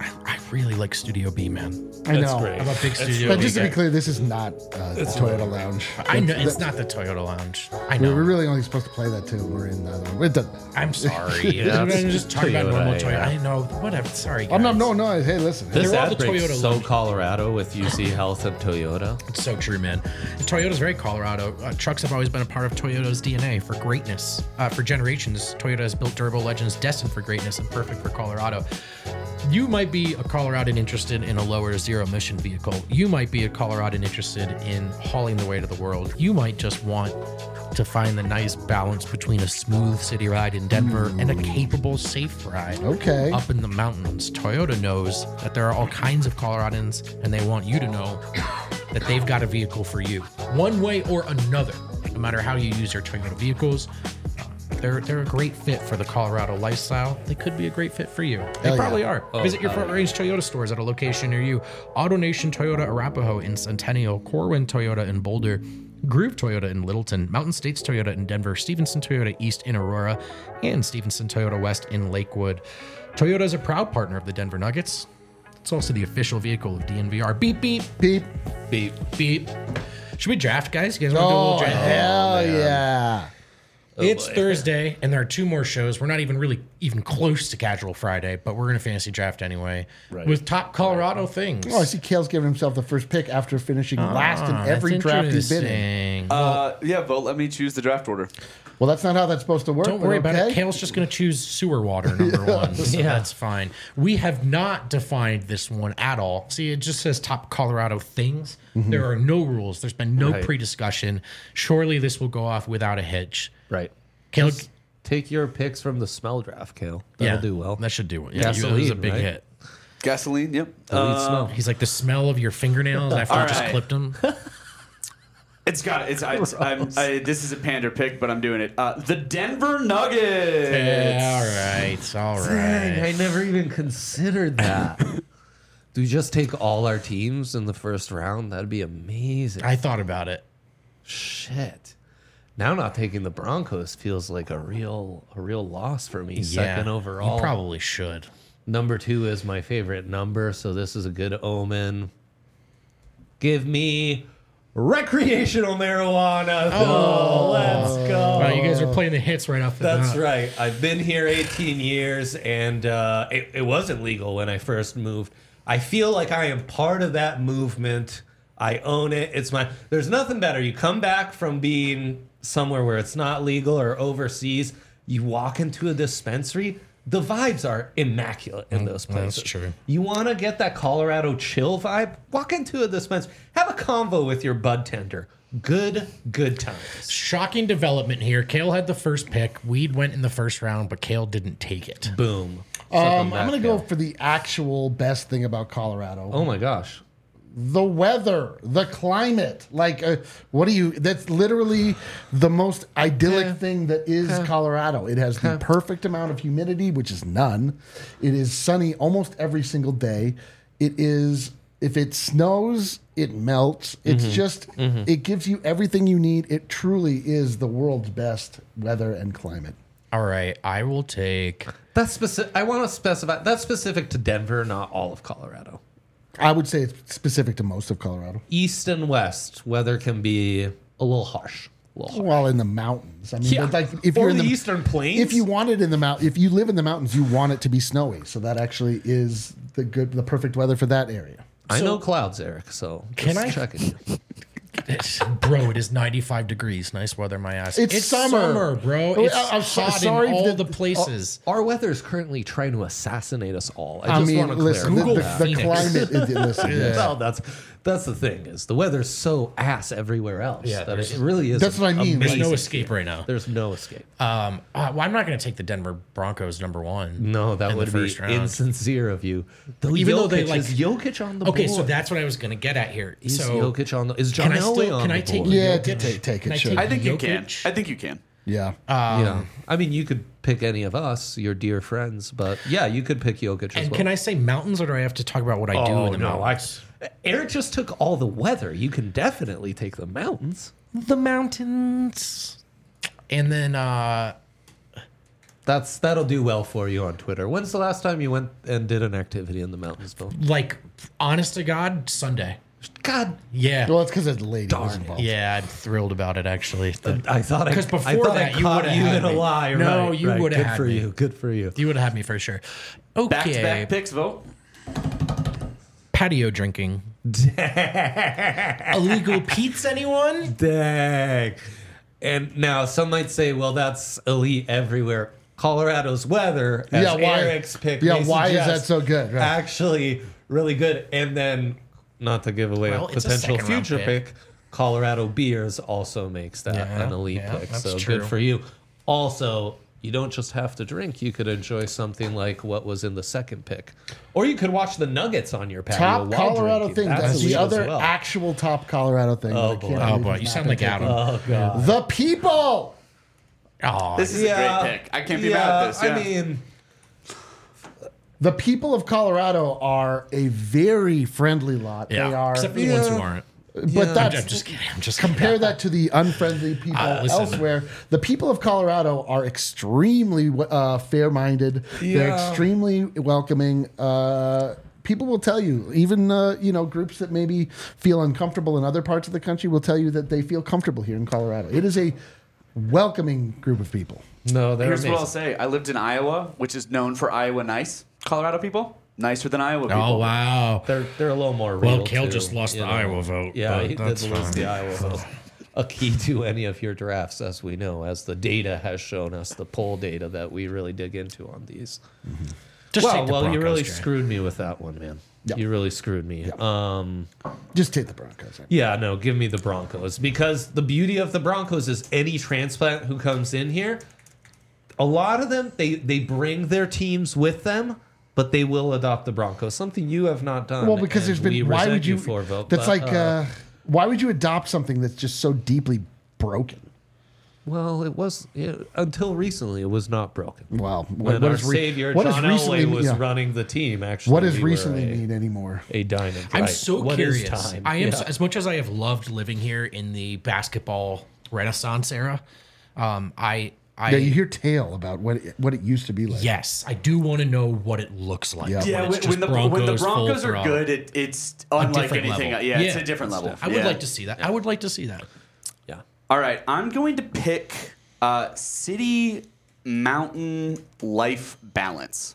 really like Studio B, man. I That's know. great. I'm a big Studio But B just to guy. be clear, this is not uh, the Toyota Lounge. I know That's- it's not the Toyota Lounge. I We know. were really only supposed to play that too. We're in the other one. It doesn't matter. I'm sorry. Yeah, I'm it's just talking about Toyota, normal Toyota. yeah. I know. Whatever. Sorry, guys. I'm not, no, no. Hey, listen. This They're all ad the break's Toyota so lounge. Colorado with U C Health and Toyota. It's so true, man. Toyota's very Colorado. Uh, trucks have always been a part of Toyota's D N A for greatness. Uh, for generations, Toyota has built durable legends destined for greatness and perfect for Colorado. You might be a Coloradan interested in a lower zero emission vehicle. You might be a Coloradan interested in hauling the weight of the world. You might just want to find the nice balance between a smooth city ride in Denver and a capable, safe ride Okay. up in the mountains. Toyota knows that there are all kinds of Coloradans, and they want you to know that they've got a vehicle for you, one way or another. No matter how you use your Toyota vehicles, they're they're a great fit for the Colorado lifestyle. They could be a great fit for you. They Hell probably yeah. are. Oh, Visit your hell Front Range Toyota stores at a location near you. AutoNation Toyota Arapahoe in Centennial, Corwin Toyota in Boulder, Groove Toyota in Littleton, Mountain States Toyota in Denver, Stevenson Toyota East in Aurora, and Stevenson Toyota West in Lakewood. Toyota is a proud partner of the Denver Nuggets. It's also the official vehicle of D N V R. Beep, beep, Beep. Beep. beep. Should we draft, guys? You guys want to do a Oh, little draft? hell man. yeah. It's boy. Thursday, and there are two more shows. We're not even really even close to Casual Friday, but we're going to fantasy draft anyway Right. with top Colorado things. Oh, I see Kale's giving himself the first pick after finishing last in Ah, every that's draft he's been in. interesting. Uh, yeah, vote. Let me choose the draft order. Well, that's not how that's supposed to work. Don't but worry about it. okay. Kale's just going to choose sewer water number one. So Yeah. that's fine. We have not defined this one at all. See, it just says top Colorado things. There are no rules. There's been no Right. pre-discussion. Surely this will go off without a hitch. Right. Kale, Take your picks from the smell draft, Kale. That'll do well. That should do it. Yeah, it was a Gasoline, big right? hit. Gasoline. Yep. The lead Uh, smell. He's like the smell of your fingernails after you All just right. clipped them. It's got it's. I, it's I'm, I, this is a pander pick, but I'm doing it. Uh, the Denver Nuggets. Yeah, all right, all Dang, I right. never even considered that. Do we just take all our teams in the first round? That'd be amazing. I thought about it. Shit. Now not taking the Broncos feels like a real a real loss for me. Second overall. You probably should. Number two is my favorite number, so this is a good omen. Give me recreational marijuana. Oh, let's go. Wow, you guys are playing the hits right off the That's bat. right. I've been here eighteen years, and uh, it, it wasn't legal when I first moved. I feel like I am part of that movement. I own it. It's my. There's nothing better. You come back from being somewhere where it's not legal or overseas. You walk into a dispensary. The vibes are immaculate in those places. that's true. You want to get that Colorado chill vibe? Walk into a dispensary. Have a convo with your bud tender. Good, good times. Shocking development here. Kale had the first pick. Weed went in the first round, but Kale didn't take it. Boom. Um, Something I'm back going to go there. for the actual best thing about Colorado. Oh my gosh. The weather, the climate. Like, uh, what do you, that's literally the most idyllic Yeah. thing that is Colorado. It has the perfect amount of humidity, which is none. It is sunny almost every single day. It is, if it snows, it melts. It's just, it gives you everything you need. It truly is the world's best weather and climate. All right, I will take. That's specific. I want to specify that's specific to Denver, not all of Colorado. I would say it's specific to most of Colorado. East and west, weather can be a little harsh. A little harsh. Well, in the mountains. I mean, Yeah. like if Or you're in the the Eastern Plains. if you want it in the mount, if you live in the mountains, you want it to be snowy. So that actually is the good, the perfect weather for that area. I So- know clouds, Eric. So Can just I- checking you. Bro, it is ninety-five degrees. Nice weather, my ass. It's summer. bro. Oh, It's I- I'm so- hot sorry in all that- the places. Our weather is currently trying to assassinate us all. I I just mean, want to listen, the, clarify. the, Google the Phoenix. climate. Is, listen, yes. Well, that's that's the thing is the weather's so ass everywhere else Yeah, that there's- it really is. That's what I mean. There's Like, no escape right now. There's no escape. Um, uh, well, I'm not going to take the Denver Broncos number one. No, that in the would be first round. insincere of you. Though Even Jokic, though they, like- is Jokic on the Okay, board. so that's what I was going to get at here. is so Jokic on the is can John I Elway still on can the I take board? Yeah, Jokic? take- take it, Can I sure. take I think you can. Jokic? I think you can. Yeah. yeah, I mean you could pick any of us, your dear friends, but yeah, you could pick Jokic as And well. can I say mountains, or do I have to talk about what I do Oh in the no, I, mountains? Eric just took all the weather. You can definitely take the mountains. The mountains. And then uh That's that'll do well for you on Twitter. When's the last time you went and did an activity in the mountains, Bill? Like, honest to God, Sunday. God, Yeah. Well, it's because the lady was involved. Yeah, I'm thrilled about it, actually. The- I thought I Because before I thought that, I you caught would've you had in a me. lie. No, right, you right. would've Good had for me. you. Good for you. you would have had me for sure. Back to Okay. back picks, vote. Patio drinking. Illegal Pete's, anyone? Dang. And now some might say, well, that's elite everywhere. Colorado's weather, as Yeah, why- Eric's pick, yeah, may why is suggest, that so good? Right. Actually, really good. And then, not to give away Well, a it's a potential second round future pick. pick, Colorado Beers also makes that Yeah, an elite yeah, pick. that's So true. good for you. Also, you don't just have to drink. You could enjoy something like what was in the second pick. Or you could watch the Nuggets on your patio Top while Colorado drinking. thing. That's That's elite the as other well. actual top Colorado thing. Oh, that I can't boy. believe Oh, boy. is You not sound been like taken. Adam. Oh, God. The people. Oh, This is Yeah. a great pick. I can't be yeah, mad at this. Yeah. I mean... The people of Colorado are a very friendly lot. yeah. They are, Except for the ones who Yeah. aren't. but Yeah. I'm, that's I'm just kidding. I'm just compare kidding. that to the unfriendly people Uh, listen. elsewhere. The people of Colorado are extremely uh, fair-minded. They're Yeah. extremely welcoming. Uh, people will tell you, even uh, you know, groups that maybe feel uncomfortable in other parts of the country will tell you that they feel comfortable here in Colorado. It is a welcoming group of people. No, they're Here's amazing. what I'll say. I lived in Iowa, which is known for Iowa nice. Colorado people, nicer than Iowa people. Oh, wow. They're they're a little more real. Well, Kale too, just lost you the know. Iowa vote, Yeah, but he that's did lose fine. the Iowa vote. A key to any of your drafts, as we know, as the data has shown us, the poll data that we really dig into on these. Just well, take the well, you Broncos, really Jay. screwed me with that one, man. Yeah. You really screwed me. Yeah. Um, Just take the Broncos. yeah, no, give me the Broncos because the beauty of the Broncos is any transplant who comes in here, a lot of them they they bring their teams with them. But they will adopt the Broncos, something you have not done. Well, because and there's been. we Why resent would you? for vote, that's but, like. Uh, why would you adopt something that's just so deeply broken? Well, it was yeah, until recently. It was not broken. Well, what, When what our is re- savior what does John recently Elway mean- was yeah. running the team, actually, What does we were recently a, mean anymore? A diamond. I'm right. so What is curious. time? I am Yeah. so, as much as I have loved living here in the basketball renaissance era. Um, I, I Yeah, you hear tale about what it, what it used to be like. yes, I do want to know what it looks like. Yeah. Yeah, when, when, it's when just the when the full Broncos are throttle. good, it, it's unlike different anything. level. Yeah, it's Yeah. a different level. I would Yeah. like to see that. I would like to see that. Yeah. All right, I'm going to pick uh, city mountain life balance.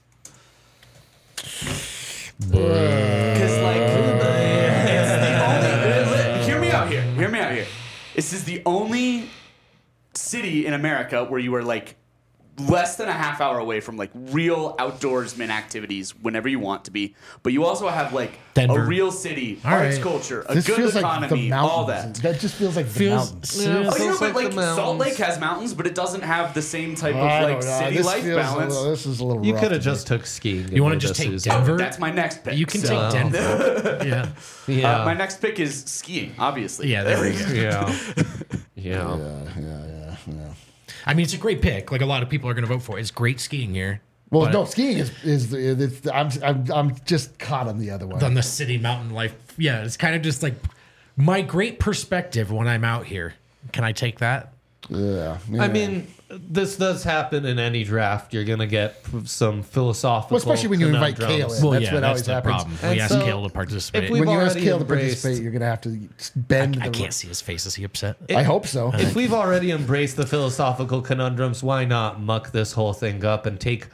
Because like, it's the only. Hear me out here. Hear me out here. This is the only city in America where you are like less than a half hour away from like real outdoorsman activities whenever you want to be, but you also have like Denver. a real city, All arts, right. culture, a This good feels like the economy, mountains. all that. That just feels like the Feels- mountains. Yeah, Oh, you know, feels but like like the Salt mountains. Lake has mountains, but it doesn't have the same type of I like don't know. city This life feels a balance. little- this is a little. You rough could have to me. just took skiing. You want to just take Susan. Denver? That's my next pick. You can So, take Denver. yeah. Yeah. Uh, my next pick is skiing, obviously. Yeah, there we go. yeah. Yeah. Yeah, yeah, yeah, yeah. I mean, it's a great pick. Like a lot of people are going to vote for it. It's great skiing here. Well, But no, skiing is is the, it's the, I'm, I'm I'm just caught on the other one. on the city mountain life. Yeah, it's kind of just like my great perspective when I'm out here. Can I take that? Yeah, yeah. I mean, this does happen in any draft. You're going to get some philosophical. Well, especially when you invite conundrums. Kale in. Well, That's yeah, what that's always the happens. problem. And We asked so, Kale to participate. if we- when you ask already Kale to embraced- participate, you're gonna have to bend. I the, can't see his face. Is he upset? I hope so. If we've already embraced the philosophical conundrums, why not muck this whole thing up and take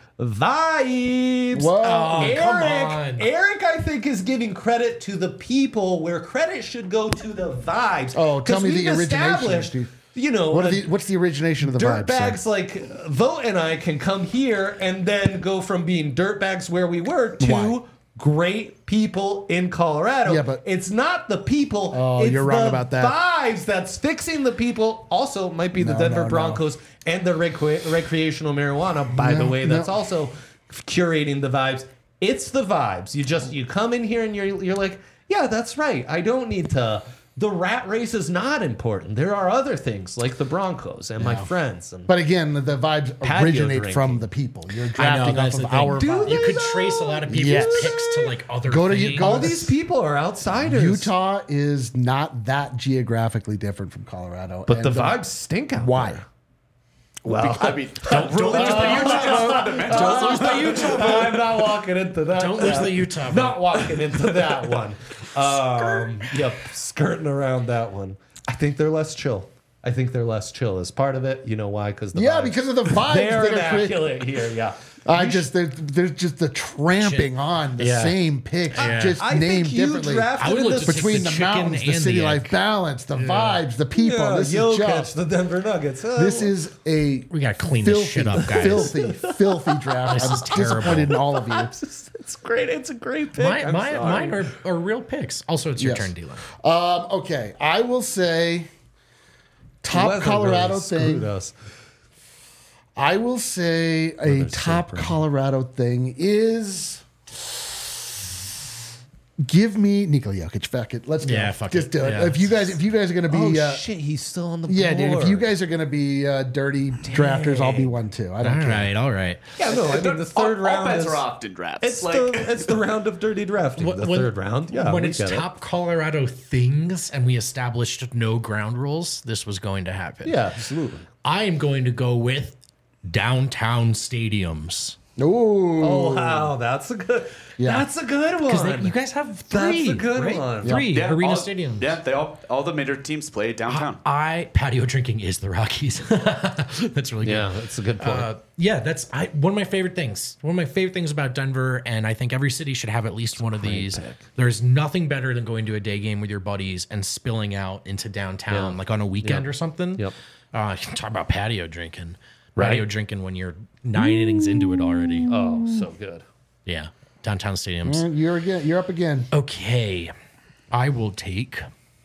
vibes? Whoa. Oh, Eric, come on. Eric, I think, is giving credit to the people where credit should go to the vibes. Oh, tell 'Cause me the we've origination, established, dude. You know, What are uh, the, what's the origination of the vibe? dirtbags sir? like Vote and I can come here and then go from being dirtbags where we were to Why? great people in Colorado. Yeah, but- it's not the people. Oh, it's you're wrong the about that. Vibes that's fixing the people. Also, might be the No, Denver no, no. Broncos and the recre- recreational marijuana. By the No, way, that's no. also curating the vibes. It's the vibes. You just you come in here and you're you're like, yeah, that's right. I don't need to. The rat race is not important. There are other things like the Broncos and my friends. And But again, the, the vibes Patio originate drinking. from the people. You're I know drafting off that's of the thing. our Do vibe. they? You could trace a lot of people's Yes. picks to like other Go to- things. go all to- these people are outsiders. Utah is not that geographically different from Colorado. But and the vibes stink out Why? there. Well, I mean, don't, don't lose the Utah fundamental. Don't lose the Utah. I'm not walking into that. Don't lose the Utah. Not walking into that one. Um, yep, skirting around that one. I think they're less chill. I think they're less chill as part of it. You know why? Because the Yeah, vibes. because of the vibes They're that are created. immaculate here. Yeah. I just there, there's just the tramping on the Yeah. same picks, Yeah. just I named think you differently. drafted I would in look this to take Between the the, chicken mountains, the and city the life egg. balance, the vibes, the people. Yeah, this Jokic, is just the Denver Nuggets. Uh, this is a We gotta clean this filthy, shit up, guys. filthy, filthy draft. This I'm is terrible. disappointed in all of you. it's great. It's a great pick. My, I'm my, sorry. mine are, are real picks. Also, it's your Yes. turn, Dylan. Um, okay, I will say top Weather Colorado really thing. screwed us. I will say a Weather's so top pretty. Colorado thing is give me Nikola Jokic. Fuck it, let's do Yeah, it. fuck Just it. do it. Yeah. If you guys, if you guys are gonna Oh be, uh, shit, he's still on the yeah, board. dude. If you guys are gonna be uh, dirty drafters, I'll be one too. I don't All care. right, all right. Yeah, no, I mean the third all, round all bets is are off in drafts. it's like, the it's the round of dirty drafting. The When- third round, yeah. When we it's get it. top Colorado things and we established no ground rules, this was going to happen. yeah, absolutely. I am going to go with downtown stadiums. Ooh. Oh wow, that's a good. Yeah. That's a good Because one. you guys have That's three. a good right? one. Three yeah, arena all, stadiums. Yeah, they all all the major teams play downtown. I patio drinking is the Rockies. That's really good. yeah, that's a good point. Uh, yeah, that's I, one of my favorite things. One of my favorite things about Denver, and I think every city should have at least one of these. pick. There's nothing better than going to a day game with your buddies and spilling out into downtown, Yeah. like on a weekend Yep. or something. Yep. Uh, talk about patio drinking. Right. Patio drinking when you're nine innings into it already. oh, so good. Yeah, downtown stadiums. Mm, You're again. You're up again. Okay, I will take.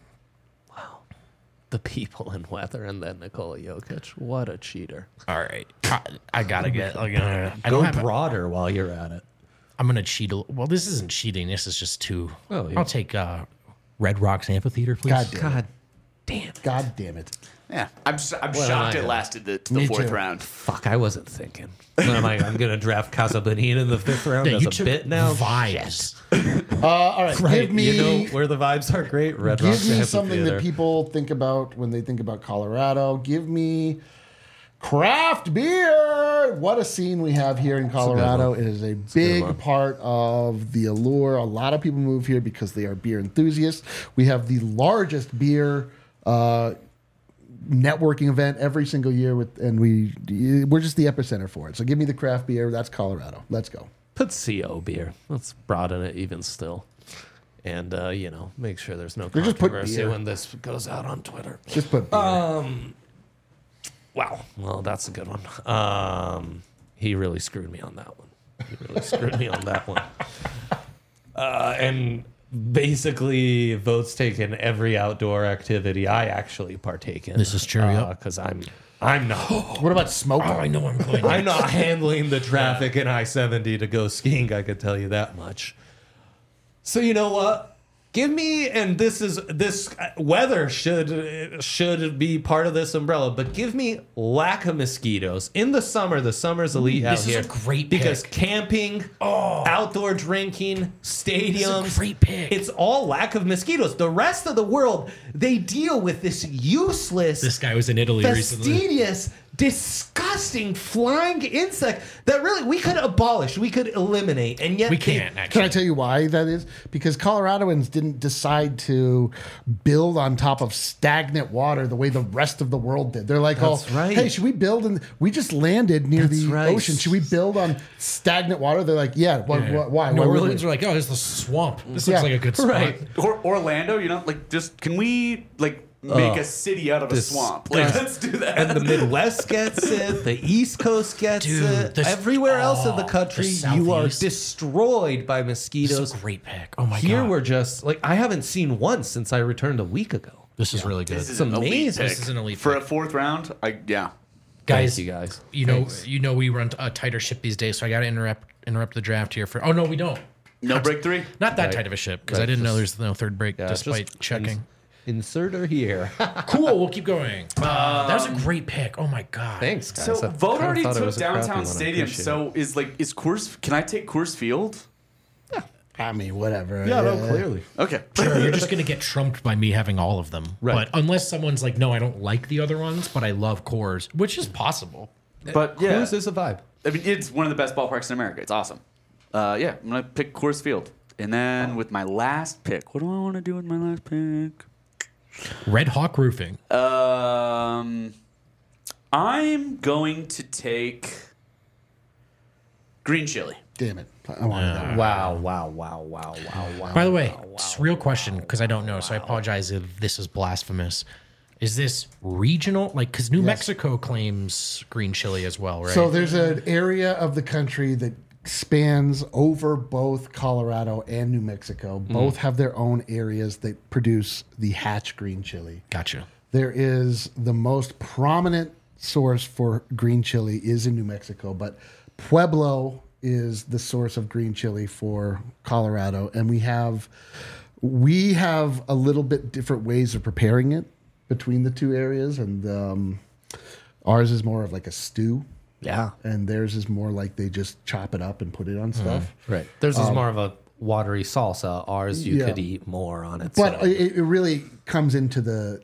The people and weather, and then Nikola Jokic. What a cheater! All right, I, I gotta get. Like, uh, I Go don't have. broader while you're at it. I'm gonna cheat. A, well, this isn't cheating. This is just too. Oh, yeah. I'll take uh, Red Rocks Amphitheater, please. God damn it. God damn it! God damn it. Yeah, I'm s- I'm Well, shocked I it know. lasted the, to the Me fourth too. round. Fuck, I wasn't thinking. What am I? I'm gonna draft Casa Bonita in the fifth round Yeah, as you a took bit now. vibes. Uh, all right, give me. You know where the vibes are great. Red Give Rocks me something Amphitheater. that people think about when they think about Colorado. Give me craft beer. What a scene we have here in Colorado. one. It is a good big one. part of the allure. A lot of people move here because they are beer enthusiasts. We have the largest beer uh, networking event every single year, with, and we we're just the epicenter for it. So give me the craft beer. That's Colorado. Let's go. Put C O beer. Let's broaden it even still. And, uh, you know, make sure there's no Or just put controversy beer. when this goes out on Twitter. Just put beer. Wow. Well, that's a good one. Um, he really screwed me on that one. He really screwed me on that one. Uh, and basically, votes taken every outdoor activity I actually partake in. This is true, yep. Because I'm, I'm not. what about smoke? Oh, I know I'm going. I'm not handling the traffic in I seventy to go skiing, I could tell you that much. So you know what? Give me, and this is this weather should should be part of this umbrella, but give me lack of mosquitoes in the summer. The summer's elite out this is here. a great because pick. camping, outdoor drinking, stadiums. This is a great pick. It's all lack of mosquitoes. The rest of the world, they deal with this useless, This guy was in Italy recently. fastidious, disgusting flying insect that really we could abolish, we could eliminate, and yet We they- can't Can actually. I tell you why that is? Because Coloradoans didn't decide to build on top of stagnant water the way the rest of the world did. They're like, That's oh, right. hey, should we build? And we just landed near That's the right. ocean. Should we build on stagnant water? They're like, yeah. Why? Yeah. why, why New would Orleans we? are like, oh, there's the swamp. This Yeah. looks like a good spot. Right. Or Orlando, you know, like just can we like make a city out of a this- swamp? Like uh, let's do that. And the Midwest gets it. The East Coast gets Dude, it. this- Everywhere else in the oh, country, the you are Southeast. destroyed by This mosquitoes. is a great pick. Oh my Here god. we're just like I haven't seen one since I returned a week ago. This is really good. This is It's an elite amazing. pick. This is an elite for pick. a fourth round. I yeah. guys, Thank you guys. You know, Thanks. you know, we run a tighter ship these days, so I got to interrupt interrupt the draft here for. Oh no, we don't. No break three. Not that Right. tight of a ship because Right, I didn't know just- there's no third break Yeah, despite just checking. ins- insert her here. Cool, we'll keep going. Uh, that was a great pick. Oh my god. Thanks, guys. So I Vote kinda already thought it took was a crappy downtown one. I stadium. appreciate So is like is Coors? Can I take Coors Field? I mean, whatever. Yeah, no, clearly. Okay. Sure, you're just gonna get trumped by me having all of them. Right. But unless someone's like, no, I don't like the other ones, but I love Coors, which is possible. But yeah, Coors is a vibe. I mean, it's one of the best ballparks in America. It's awesome. Uh, yeah, I'm gonna pick Coors Field, and then with my last pick, what do I want to do with my last pick? Red Hawk Roofing. Um, I'm going to take green chili. Damn it. I wanted that. Wow, wow, wow, wow, wow, wow. By the way, wow, just real question, because I don't know, so I apologize if this is blasphemous. Is this regional? Like, because New Mexico claims green chili as well, right? So there's an area of the country that spans over both Colorado and New Mexico. Both have their own areas that produce the Hatch green chili. Gotcha. There is the most prominent source for green chili is in New Mexico, but Pueblo is the source of green chili for Colorado, and we have we have a little bit different ways of preparing it between the two areas, and um, ours is more of like a stew. Yeah. And theirs is more like they just chop it up and put it on stuff. Right. Theirs is more of a watery salsa. Ours, you yeah. could eat more on it. But so. it, it really comes into the,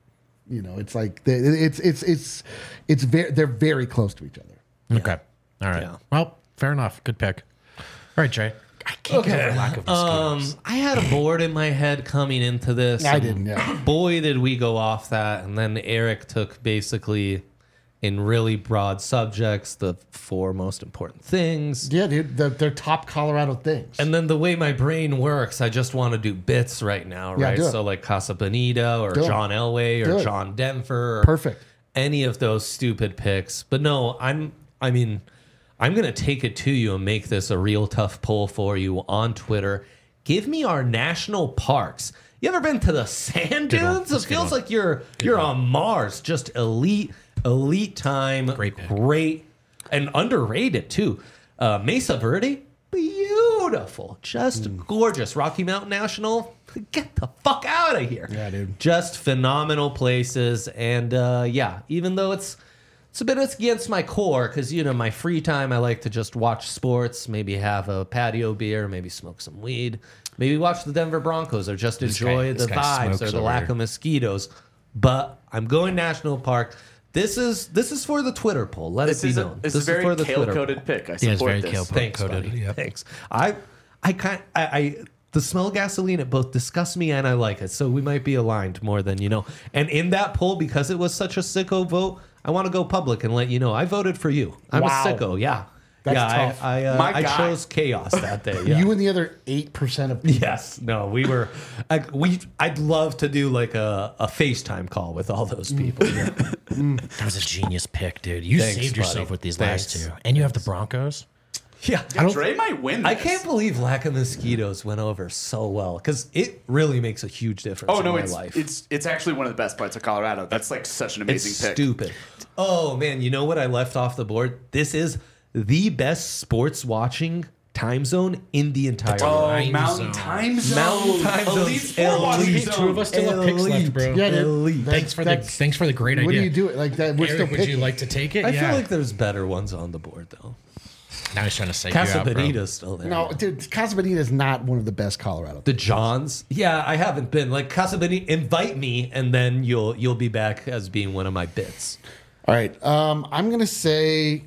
you know, it's like the, it's it's it's it's very they're very close to each other. Okay. All right. Yeah. Well, fair enough. Good pick. All right, Jay. I can't get over lack of mosquitoes. Um, I had a board in my head coming into this. I and didn't, yeah. Boy, did we go off that. And then Eric took basically, in really broad subjects, the four most important things. Yeah, dude, they're, they're top Colorado things. And then the way my brain works, I just want to do bits right now, Yeah, right? do it. So like Casa Bonita or Do it. John Elway Do or it. John Denver. Or Perfect. Any of those stupid picks. But no, I'm, I mean, I'm going to take it to you and make this a real tough poll for you on Twitter. Give me our national parks. You ever been to the sand Good one. dunes? It That's a good feels one. like you're you're on Mars. Just elite, elite time. Great pick. Great and underrated too. Uh, Mesa Verde, beautiful, just Mm. gorgeous. Rocky Mountain National, get the fuck out of here. Yeah, dude. Just phenomenal places, and uh, yeah, even though it's it's a bit against my core, because you know my free time I like to just watch sports, maybe have a patio beer, maybe smoke some weed, maybe watch the Denver Broncos, or just enjoy guy- this the guy vibes smokes or the over lack here. of mosquitoes. But I'm going National Park. This is this is for the Twitter poll. Let This it be is a, known. this this is a very for the Twitter kale-coated poll. pick. I Yeah, it's support very this. kale- Thanks, Coated, buddy. yep. Thanks. I, I kind, I, I, the smell of gasoline, it both disgusts me and I like it. So we might be aligned more than you know. And in that poll, because it was such a sicko vote, I want to go public and let you know I voted for you. I'm Wow. a sicko. Yeah, That's yeah. tough. I, I, uh, My I guy. chose chaos that day. Yeah. You and the other eight percent of people. Yes. No, we were. I, we. I'd love to do like a, a FaceTime call with all those people. Yeah. That was a genius pick, dude. You Thanks, saved yourself buddy. with these Thanks. last two. And you have the Broncos. yeah. Yeah, Dre might win this. I can't believe lack of mosquitoes went over so well because it really makes a huge difference Oh in no, my it's life. it's it's actually one of the best parts of Colorado. That's like such an amazing It's pick. stupid. Oh man, you know what I left off the board? This is the best sports watching time zone in the entire Oh, world. Time Mountain zone. Time Zone. Mountain Time Zone's Elite Sport watching elite. zone. Two of us still have picks left, bro. Yeah, dude. Elite. That's- Thanks for the that's- thanks for the great What idea. do you do it like that? We're Eric, still would picking. you like to take it? I yeah. feel like there's better ones on the board though. now he's trying to say Casa you out, bro. Bonita's still there. No, dude, Casa Bonita is not one of the best Colorado. The Johns? Yeah, I haven't been. Like Casa Bonita, invite me and then you'll you'll be back as being one of my bits. All right, um, I'm gonna say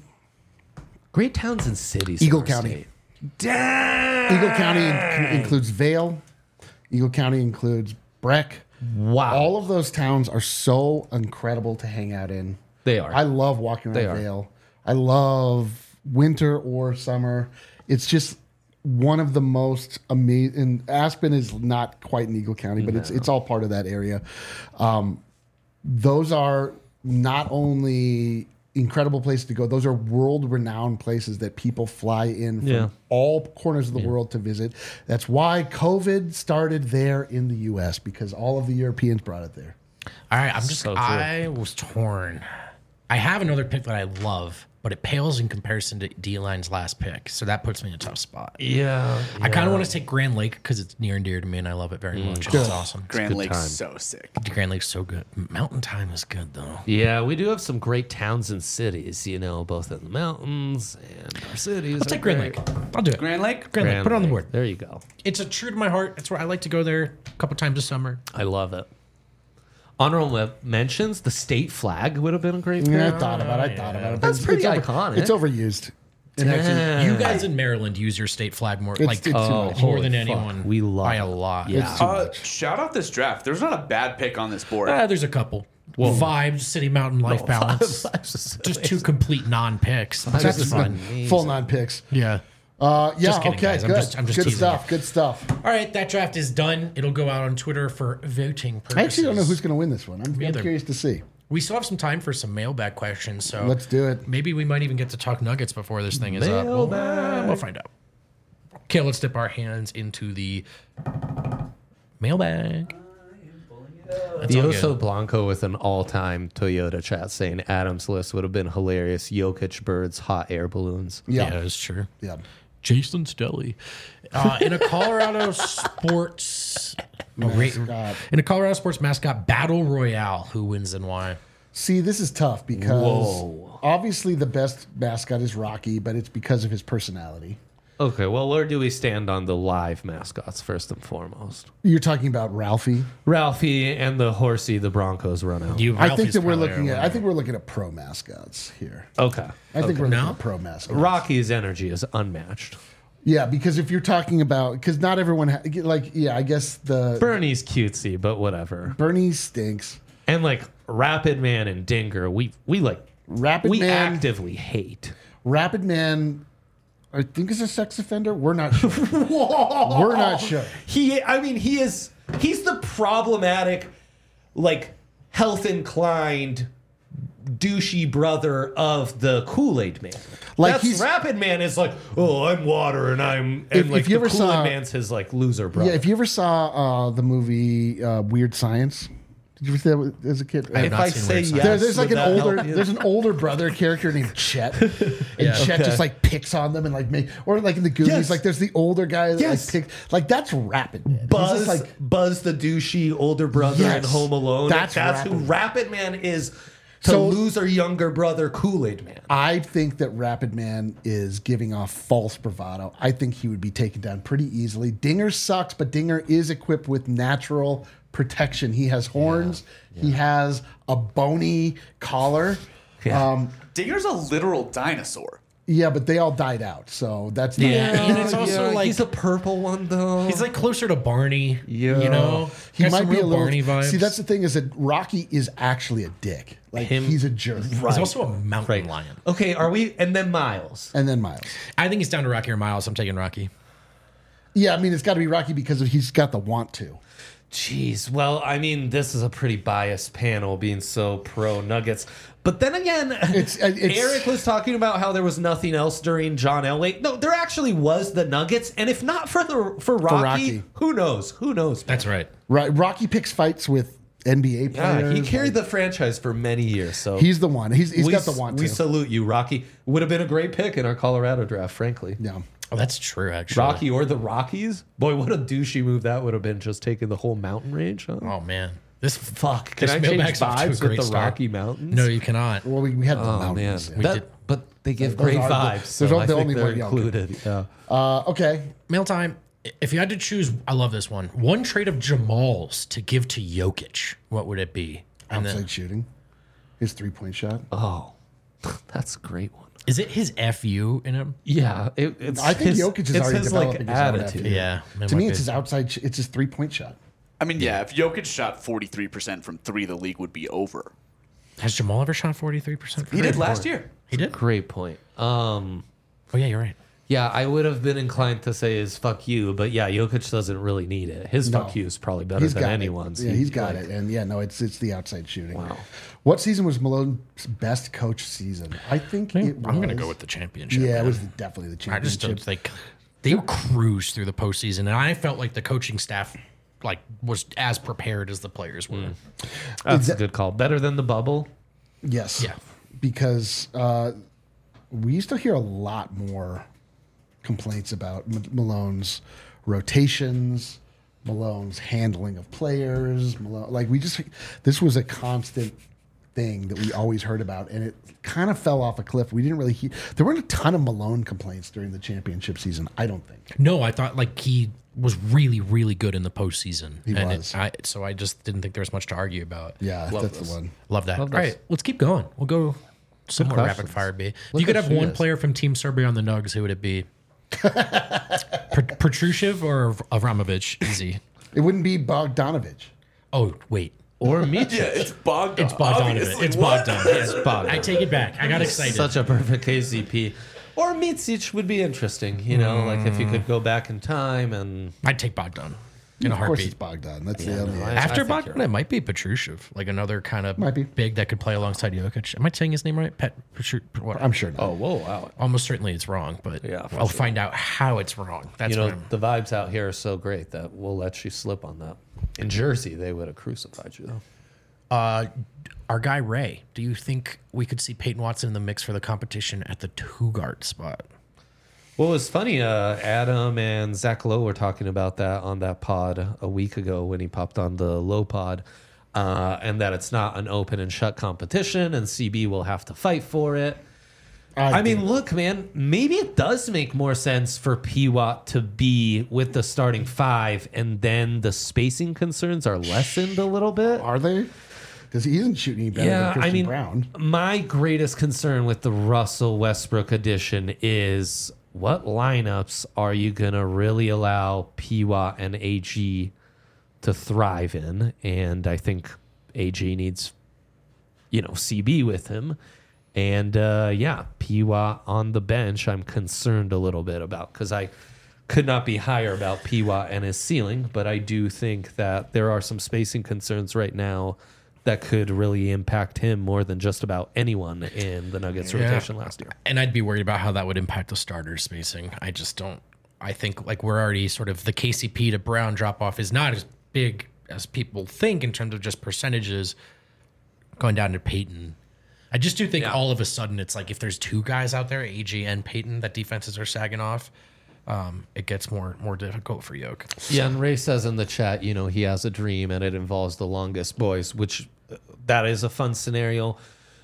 Great towns and cities. Eagle in our County. state. Damn. Eagle County in- includes Vale. Eagle County includes Breck. Wow. All of those towns are so incredible to hang out in. They are. I love walking They around are. Vale. I love winter or summer. It's just one of the most amazing. Aspen is not quite in Eagle County, but it's it's all part of that area. Um, those are not only incredible places to go; those are world-renowned places that people fly in from Yeah. all corners of the world to visit. That's why COVID started there in the U S because all of the Europeans brought it there. All right, I'm just So true. I was torn. I have another pick that I love, but it pales in comparison to D-Line's last pick. So that puts me in a tough spot. Yeah. I kind of want to take Grand Lake because it's near and dear to me, and I love it very much. It's awesome. Grand Lake's time. so sick. Grand Lake's so good. Mountain Time is good though. Yeah, we do have some great towns and cities, you know, both in the mountains and our cities. I'll take Grand Lake. I'll do it. Grand Lake? Grand Lake. Put it on the Lake. board. There you go. It's a true to my heart. It's where I like to go there a couple times a summer. I love it. Honorable mentions, the state flag would have been a great pick. Yeah, I thought about it. I thought about it. but That's it's- pretty it's over- iconic. It's overused. It actually, Damn. You guys in Maryland use your state flag more, It's- like it's too oh, much. more Holy than fuck. anyone. We love by it. a lot. Yeah. It's too Uh, much. shout out this draft. There's not a bad pick on this board. Ah, there's a couple. Vibes, City Mountain, Life Balance. Just two complete non-picks. Vibes That's is fun. amazing. Full nine picks. Yeah. Uh, yeah, Just kidding, okay, guys. I'm good. just- I'm just good teasing stuff. you. Good stuff. All right, that draft is done. It'll go out on Twitter for voting purposes. I actually don't know who's going to win this one. I'm, I'm either. curious to see. We still have some time for some mailbag questions, so Let's do it. maybe we might even get to talk Nuggets before this thing is up. We'll, uh, we'll find out. Okay, let's dip our hands into the mailbag. That's all Dioso good. Blanco with an all-time Toyota chat saying Adam's list would have been hilarious. Jokic birds, hot air balloons. Yeah. Yeah, that's true. Yeah. Jason Stelly. Uh, in a Colorado sports a ra- Mascot. in a Colorado sports mascot battle royale, who wins and why? See, this is tough because Whoa. obviously the best mascot is Rocky, but it's because of his personality. Okay, well, where do we stand on the live mascots first and foremost? You're talking about Ralphie. Ralphie and the horsey the Broncos run out. You, I think Ralphie's that we're probably looking our at. I winner. think we're looking at pro mascots here. Okay. I think we're looking No? at pro mascots. Rocky's energy is unmatched. Yeah, because if you're talking about, because not everyone, ha- like, yeah, I guess the Bernie's cutesy, but whatever. Bernie stinks. And like Rapid Man and Dinger, we we like Rapid we Man, actively hate. Rapid Man, I think is a sex offender. We're not sure. We're not sure. He, I mean, he is. He's the problematic, like health inclined, douchey brother of the Kool-Aid Man. Like, That's he's- Rapid Man is like, oh, I'm water, and I'm and If- like if you the ever Kool-Aid saw- Man's his like loser brother. Yeah, if you ever saw uh, the movie uh, Weird Science, did you see that as a kid? I have if not I seen say Weird yes, Science. There, there's like would an that older help you? there's an older brother character named Chet, and Yeah. Chet Okay. just like picks on them and like make or like in the Goonies, Yes. like there's the older guy that Yes. like picks like that's Rapid Man. He's Buzz, just like Buzz the douchey older brother Yes. in Home Alone. That's That's, who Rapid. Rapid Man is to So- loser younger brother Kool-Aid Man. I think that Rapid Man is giving off false bravado. I think he would be taken down pretty easily. Dinger sucks, but Dinger is equipped with natural protection. He has horns. He has a bony collar. Yeah. Um, Dinger's a literal dinosaur. yeah, but they all died out, so that's not Yeah, and it's also like he's a purple one though. he's like closer to Barney. Yeah. You know, He Got might some be a real little. Barney vibes. See, that's the thing is that Rocky is actually a dick. Like Him- he's a jerk. He's also a mountain right. lion. Okay, are we? And then Miles. And then Miles. I think he's down to Rocky or Miles. I'm taking Rocky. Yeah, I mean it's got to be Rocky because he's got the want to. Jeez. Well, I mean, this is a pretty biased panel being so pro Nuggets. But then again, It's- uh, it's- Eric was talking about how there was nothing else during John Elway. No, there actually was the Nuggets, and if not for the for Rocky, Rocky. who knows? Who knows? That's right. Right, Rocky picks fights with N B A Yeah, players. he carried like, the franchise for many years. So He's the one. He's he's we, got the want we to. salute you, Rocky. Would have been a great pick in our Colorado draft, frankly. yeah. Oh, that's true. Actually, Rocky or the Rockies? Boy, what a douchey move that would have been, just taking the whole mountain range. Huh? Oh man, this Fuck. Can this I change mailbag's off to a vibes with great the start. Rocky Mountains? No, you cannot. Well, we, we had the Oh, man. mountains. yeah. That- did- but they give Those great are the- vibes. those So are I the think only they're one younger. included. Yeah. Uh, okay. Mail time. If you had to choose, I love this one. One trade of Jamal's to give to Jokic, what would it be? And Outside then, shooting. His three point shot. Oh, that's a great one. is it his F U in him? Yeah. It, it's I think his, Jokic is it's already his, like, developing his own attitude. F U. Yeah. it To might me, be. it's his outside. Sh- it's his three point shot. I mean, yeah, if Jokic shot forty-three percent from three, the league would be over. Has Jamal ever shot forty-three percent? He did last year. He did? Great point. Um, Oh, yeah, you're right. yeah, I would have been inclined to say is fuck you, but yeah, Jokic doesn't really need it. His No. fuck you is probably better He's than got anyone's. it. Yeah, He- he's got like, it. And yeah, no, it's it's the outside shooting. Wow. What season was Malone's best coach season? I think it I'm going to was- go with the championship. Yeah, man. it was definitely the I just championship. don't think they cruised through the postseason, and I felt like the coaching staff like was as prepared as the players were. That's Is a that- good call. Better than the bubble. Yes. Yeah. Because uh, we used to hear a lot more complaints about M- Malone's rotations, Malone's handling of players. Malone, like we just, this was a constant thing that we always heard about, and it kind of fell off a cliff. We didn't really hear. There weren't a ton of Malone complaints during the championship season. I don't think. No, I thought like he was really, really good in the postseason. He and was. It, I, so I just didn't think there was much to argue about. Yeah, Love that's this. the one. Love that. Love All this. right, let's keep going. We'll go some more questions. rapid fire. B. If Look you could at have she one is. player from Team Serbia on the Nugs, who would it be? Pet- Petrushev or Avramovich? Easy. It wouldn't be Bogdanovich. Oh wait, Or Mitchell. Yeah, it's Bogdan. it's Bogdanovich. obviously. It's What? Bogdan. It's Bogdan. I take it back. I got excited. Such a perfect K C P. Or Mitsic would be interesting, you know, like if you could go back in time and I'd take Bogdan in a Of course, it's heartbeat. Bogdan. That's Yeah, the only. no, I- After think you're Bogdan, right. it might be Petrushev, like another kind of Might be. big that could play alongside Jokic. Am I saying his name right? Pet Petru- what? I'm sure. Not. oh, whoa, wow. Almost certainly it's wrong, but Yeah, for I'll sure. find out how it's wrong. That's You know, what I'm, the vibes out here are so great that we'll let you slip on that. In Jersey, they would have crucified you, though. uh, our guy Ray. Do you think we could see Peyton Watson in the mix for the competition at the two guard spot? Well, it was funny. Uh, Adam and Zach Lowe were talking about that on that pod a week ago when he popped on the Low pod, uh, and that it's not an open and shut competition, and C B will have to fight for it. I, mean, do. look, man, maybe it does make more sense for P W A T to be with the starting five, and then the spacing concerns are lessened a little bit. Are they? Because he isn't shooting any better than Yeah, Christian I mean, Brown. my greatest concern with the Russell Westbrook edition is what lineups are you going to really allow P W A T and A G to thrive in? And I think A G needs, you know, C B with him. And uh, yeah, P W A T on the bench, I'm concerned a little bit about because I could not be higher about P W A T and his ceiling, but I do think that there are some spacing concerns right now that could really impact him more than just about anyone in the Nuggets Yeah. rotation last year. And I'd be worried about how that would impact the starter spacing. I just don't. I think like we're already sort of the K C P to Brown drop off is not as big as people think in terms of just percentages going down to Peyton. I just do think Yeah. all of a sudden it's like if there's two guys out there, A G and Peyton, that defenses are sagging off. Um, it gets more more difficult for Yoke. Yeah, and Ray says in the chat, you know, he has a dream and it involves the longest boys, which uh, that is a fun scenario.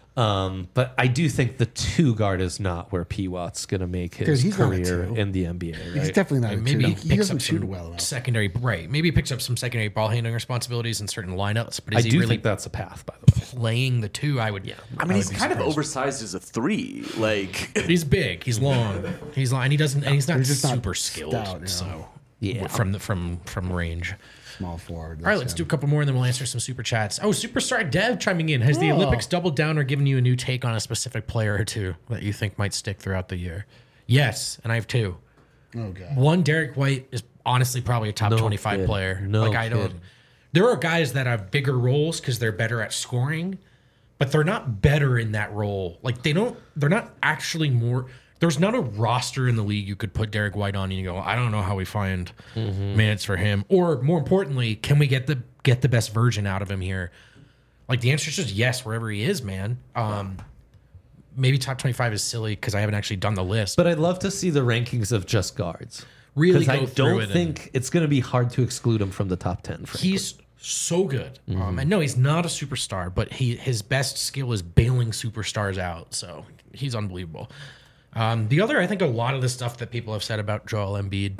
Um, but I do think the two guard is not where P W A T's going to make his Because he's not a career two. in the N B A. Right? He's definitely not a Maybe two. he He picks doesn't up shoot some well enough. secondary right. Maybe he picks up some secondary ball handling responsibilities in certain lineups. But I is he do really think that's a path, by the way. playing the two? I would. Yeah. I mean, he's kind of oversized as a three. Like, He's big. He's long. He's long, and he doesn't. And he's not He's just not super skilled. stout, you know. So Yeah. from the from from range. Small forward. All right, let's do a couple more, and then we'll answer some super chats. Oh, Superstar Dev chiming in. Has the Olympics doubled down or given you a new take on a specific player or two that you think might stick throughout the year? Yes, and I have two. Oh god. One, Derek White is honestly probably a top No twenty-five kid. player. No like I don't. kid. There are guys that have bigger roles because they're better at scoring, but they're not better in that role. Like they don't. They're not actually more. There's not a roster in the league you could put Derek White on and you go, I don't know how we find minutes for him. Or more importantly, can we get the get the best version out of him here? Like the answer is just yes, wherever he is, man. Um, maybe top twenty-five is silly because I haven't actually done the list. But I'd love to see the rankings of just guards. Really Because go I through don't it and- think it's going to be hard to exclude him from the top ten. Frankly. He's so good. Um, and no, he's not a superstar, but he his best skill is bailing superstars out. So he's unbelievable. Um, the other, I think a lot of the stuff that people have said about Joel Embiid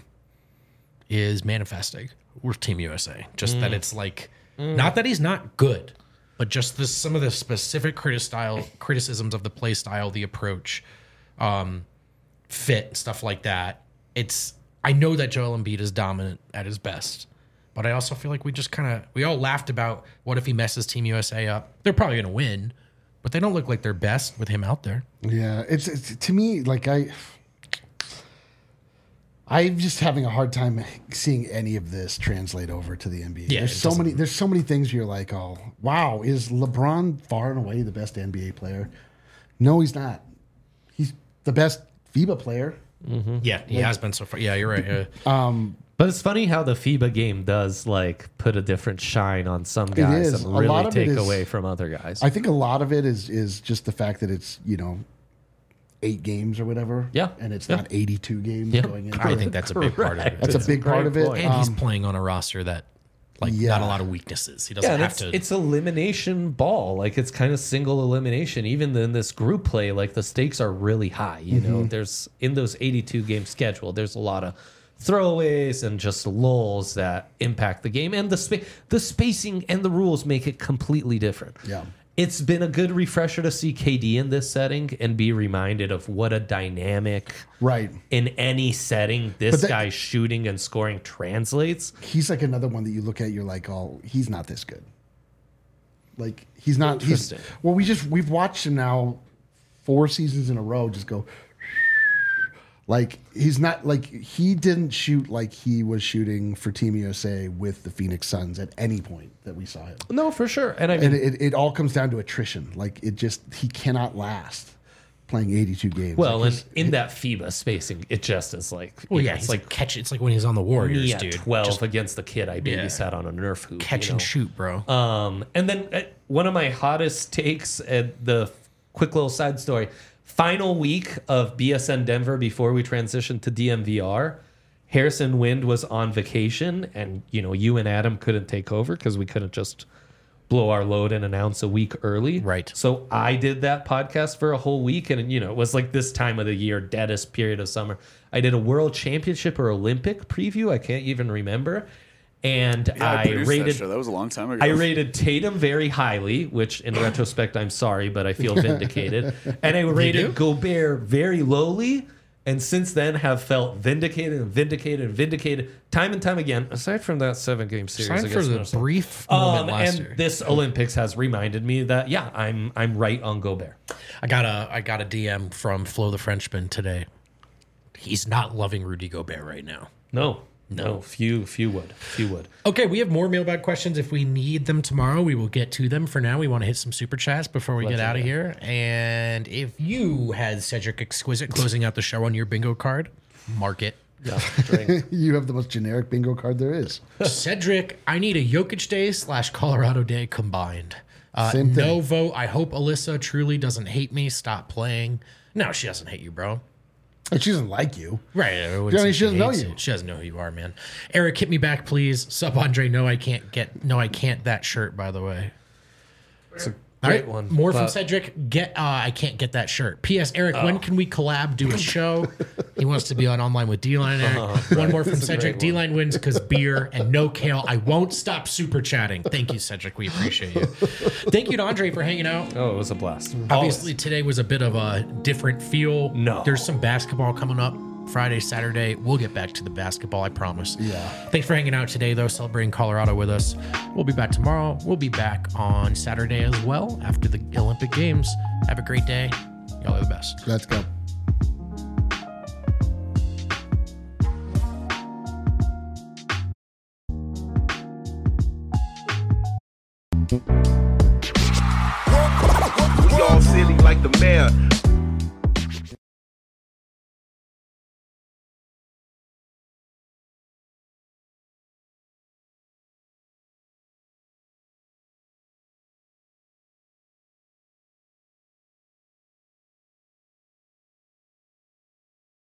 is manifesting with Team U S A. Just that it's like, not that he's not good, but just this, some of the specific critic style, criticisms of the play style, the approach, um, fit, stuff like that. It's, I know that Joel Embiid is dominant at his best, but I also feel like we just kind of, we all laughed about what if he messes Team U S A up. They're probably going to win, but they don't look like their best with him out there. Yeah, it's, it's to me like I, I'm just having a hard time seeing any of this translate over to the N B A. Yeah, there's it so doesn't- many. There's so many things you're like, oh wow, is LeBron far and away the best N B A player? No, he's not. He's the best FIBA player. Yeah, he has been so far. Yeah, you're right. Yeah. But it's funny how the FIBA game does like put a different shine on some guys is. and A lot really of it take is- away from other guys. I think a lot of it is is just the fact that it's you know eight games or whatever. Yeah. And it's Yeah. not eighty-two games Yeah. going into I it. think that's a big part of it. That's a big part of it. point. And he's Um, playing on a roster that, like, Yeah. not a lot of weaknesses. He doesn't Yeah, and have it's, to. it's elimination ball. Like it's kind of single elimination. Even in this group play, like the stakes are really high. You know, there's in those eighty-two game schedule, there's a lot of throwaways and just lulls that impact the game, and the spa- the spacing and the rules make it completely different. Yeah. It's been a good refresher to see K D in this setting and be reminded of what a dynamic Right. in any setting this But that- guy's shooting and scoring translates. He's like another one that you look at, you're like, oh, he's not this good. Like he's not. He's Interesting. well, we just we've watched him now four seasons in a row just go. Like he's not like he didn't shoot like he was shooting for Team U S A with the Phoenix Suns at any point that we saw him. No, for sure. And I mean, And it, it all comes down to attrition. Like it just he cannot last playing eighty-two games. well, Like, and his- in that FIBA spacing, it just is like, well, you yeah, know, he's it's like, like catch. It's like when he's on the Warriors, me at dude. twelve Just against the kid I babysat on a Nerf hoop. catch you and know? shoot, bro. Um, and then uh, one of my hottest takes at the quick little side story. Final week of B S N Denver before we transitioned to D M V R. Harrison Wind was on vacation, and you know you and Adam couldn't take over because we couldn't just blow our load and announce a week early. Right. So I did that podcast for a whole week, and you know it was like this time of the year, deadest period of summer. I did a World Championship or Olympic preview. I can't even remember. And Yeah, I, I, produced that rated show. That was a long time ago. I rated Tatum very highly, which in retrospect, I'm sorry, but I feel vindicated. And I rated Gobert very lowly, and since then have felt vindicated and vindicated and vindicated time and time again, aside from that seven game series. Time for against the Minnesota. brief moment Um, last and year. this Olympics has reminded me that, yeah, I'm I'm right on Gobert. I got a I got a D M from Flo the Frenchman today. He's not loving Rudy Gobert right now. No, no, few, few would. Few would. Okay, we have more mailbag questions. If we need them tomorrow, we will get to them. For now, we want to hit some super chats before we get out of here. And if you had Cedric Exquisite closing out the show on your bingo card, mark it. Yeah, drink. you have the most generic bingo card there is. Cedric, I need a Jokic Day slash Colorado Day combined. Uh, Same thing. no vote. I hope Alyssa truly doesn't hate me. Stop playing. No, she doesn't hate you, bro. And she doesn't like you. Right. I wouldn't Yeah, I say mean, she doesn't know hates you. She doesn't know who you are, man. Eric, hit me back, please. Sub Andre, no, I can't get, no, I can't that shirt, by the way. It's a All great right, one. more from But- Cedric. Get, uh, I can't get that shirt. P S. Eric, Oh. when can we collab, do a show? He wants to be on Online with D-Line, Eric. One more from That's a great Cedric. one. D-Line wins because beer and no kale. I won't stop super chatting. Thank you, Cedric. We appreciate you. Thank you to Andre for hanging out. Oh, it was a blast. Obviously, today was a bit of a different feel. No. There's some basketball coming up Friday, Saturday. We'll get back to the basketball, I promise. Yeah. Thanks for hanging out today, though, celebrating Colorado with us. We'll be back tomorrow. We'll be back on Saturday as well after the Olympic Games. Have a great day. Y'all are the best. Let's go. We all silly like the mayor.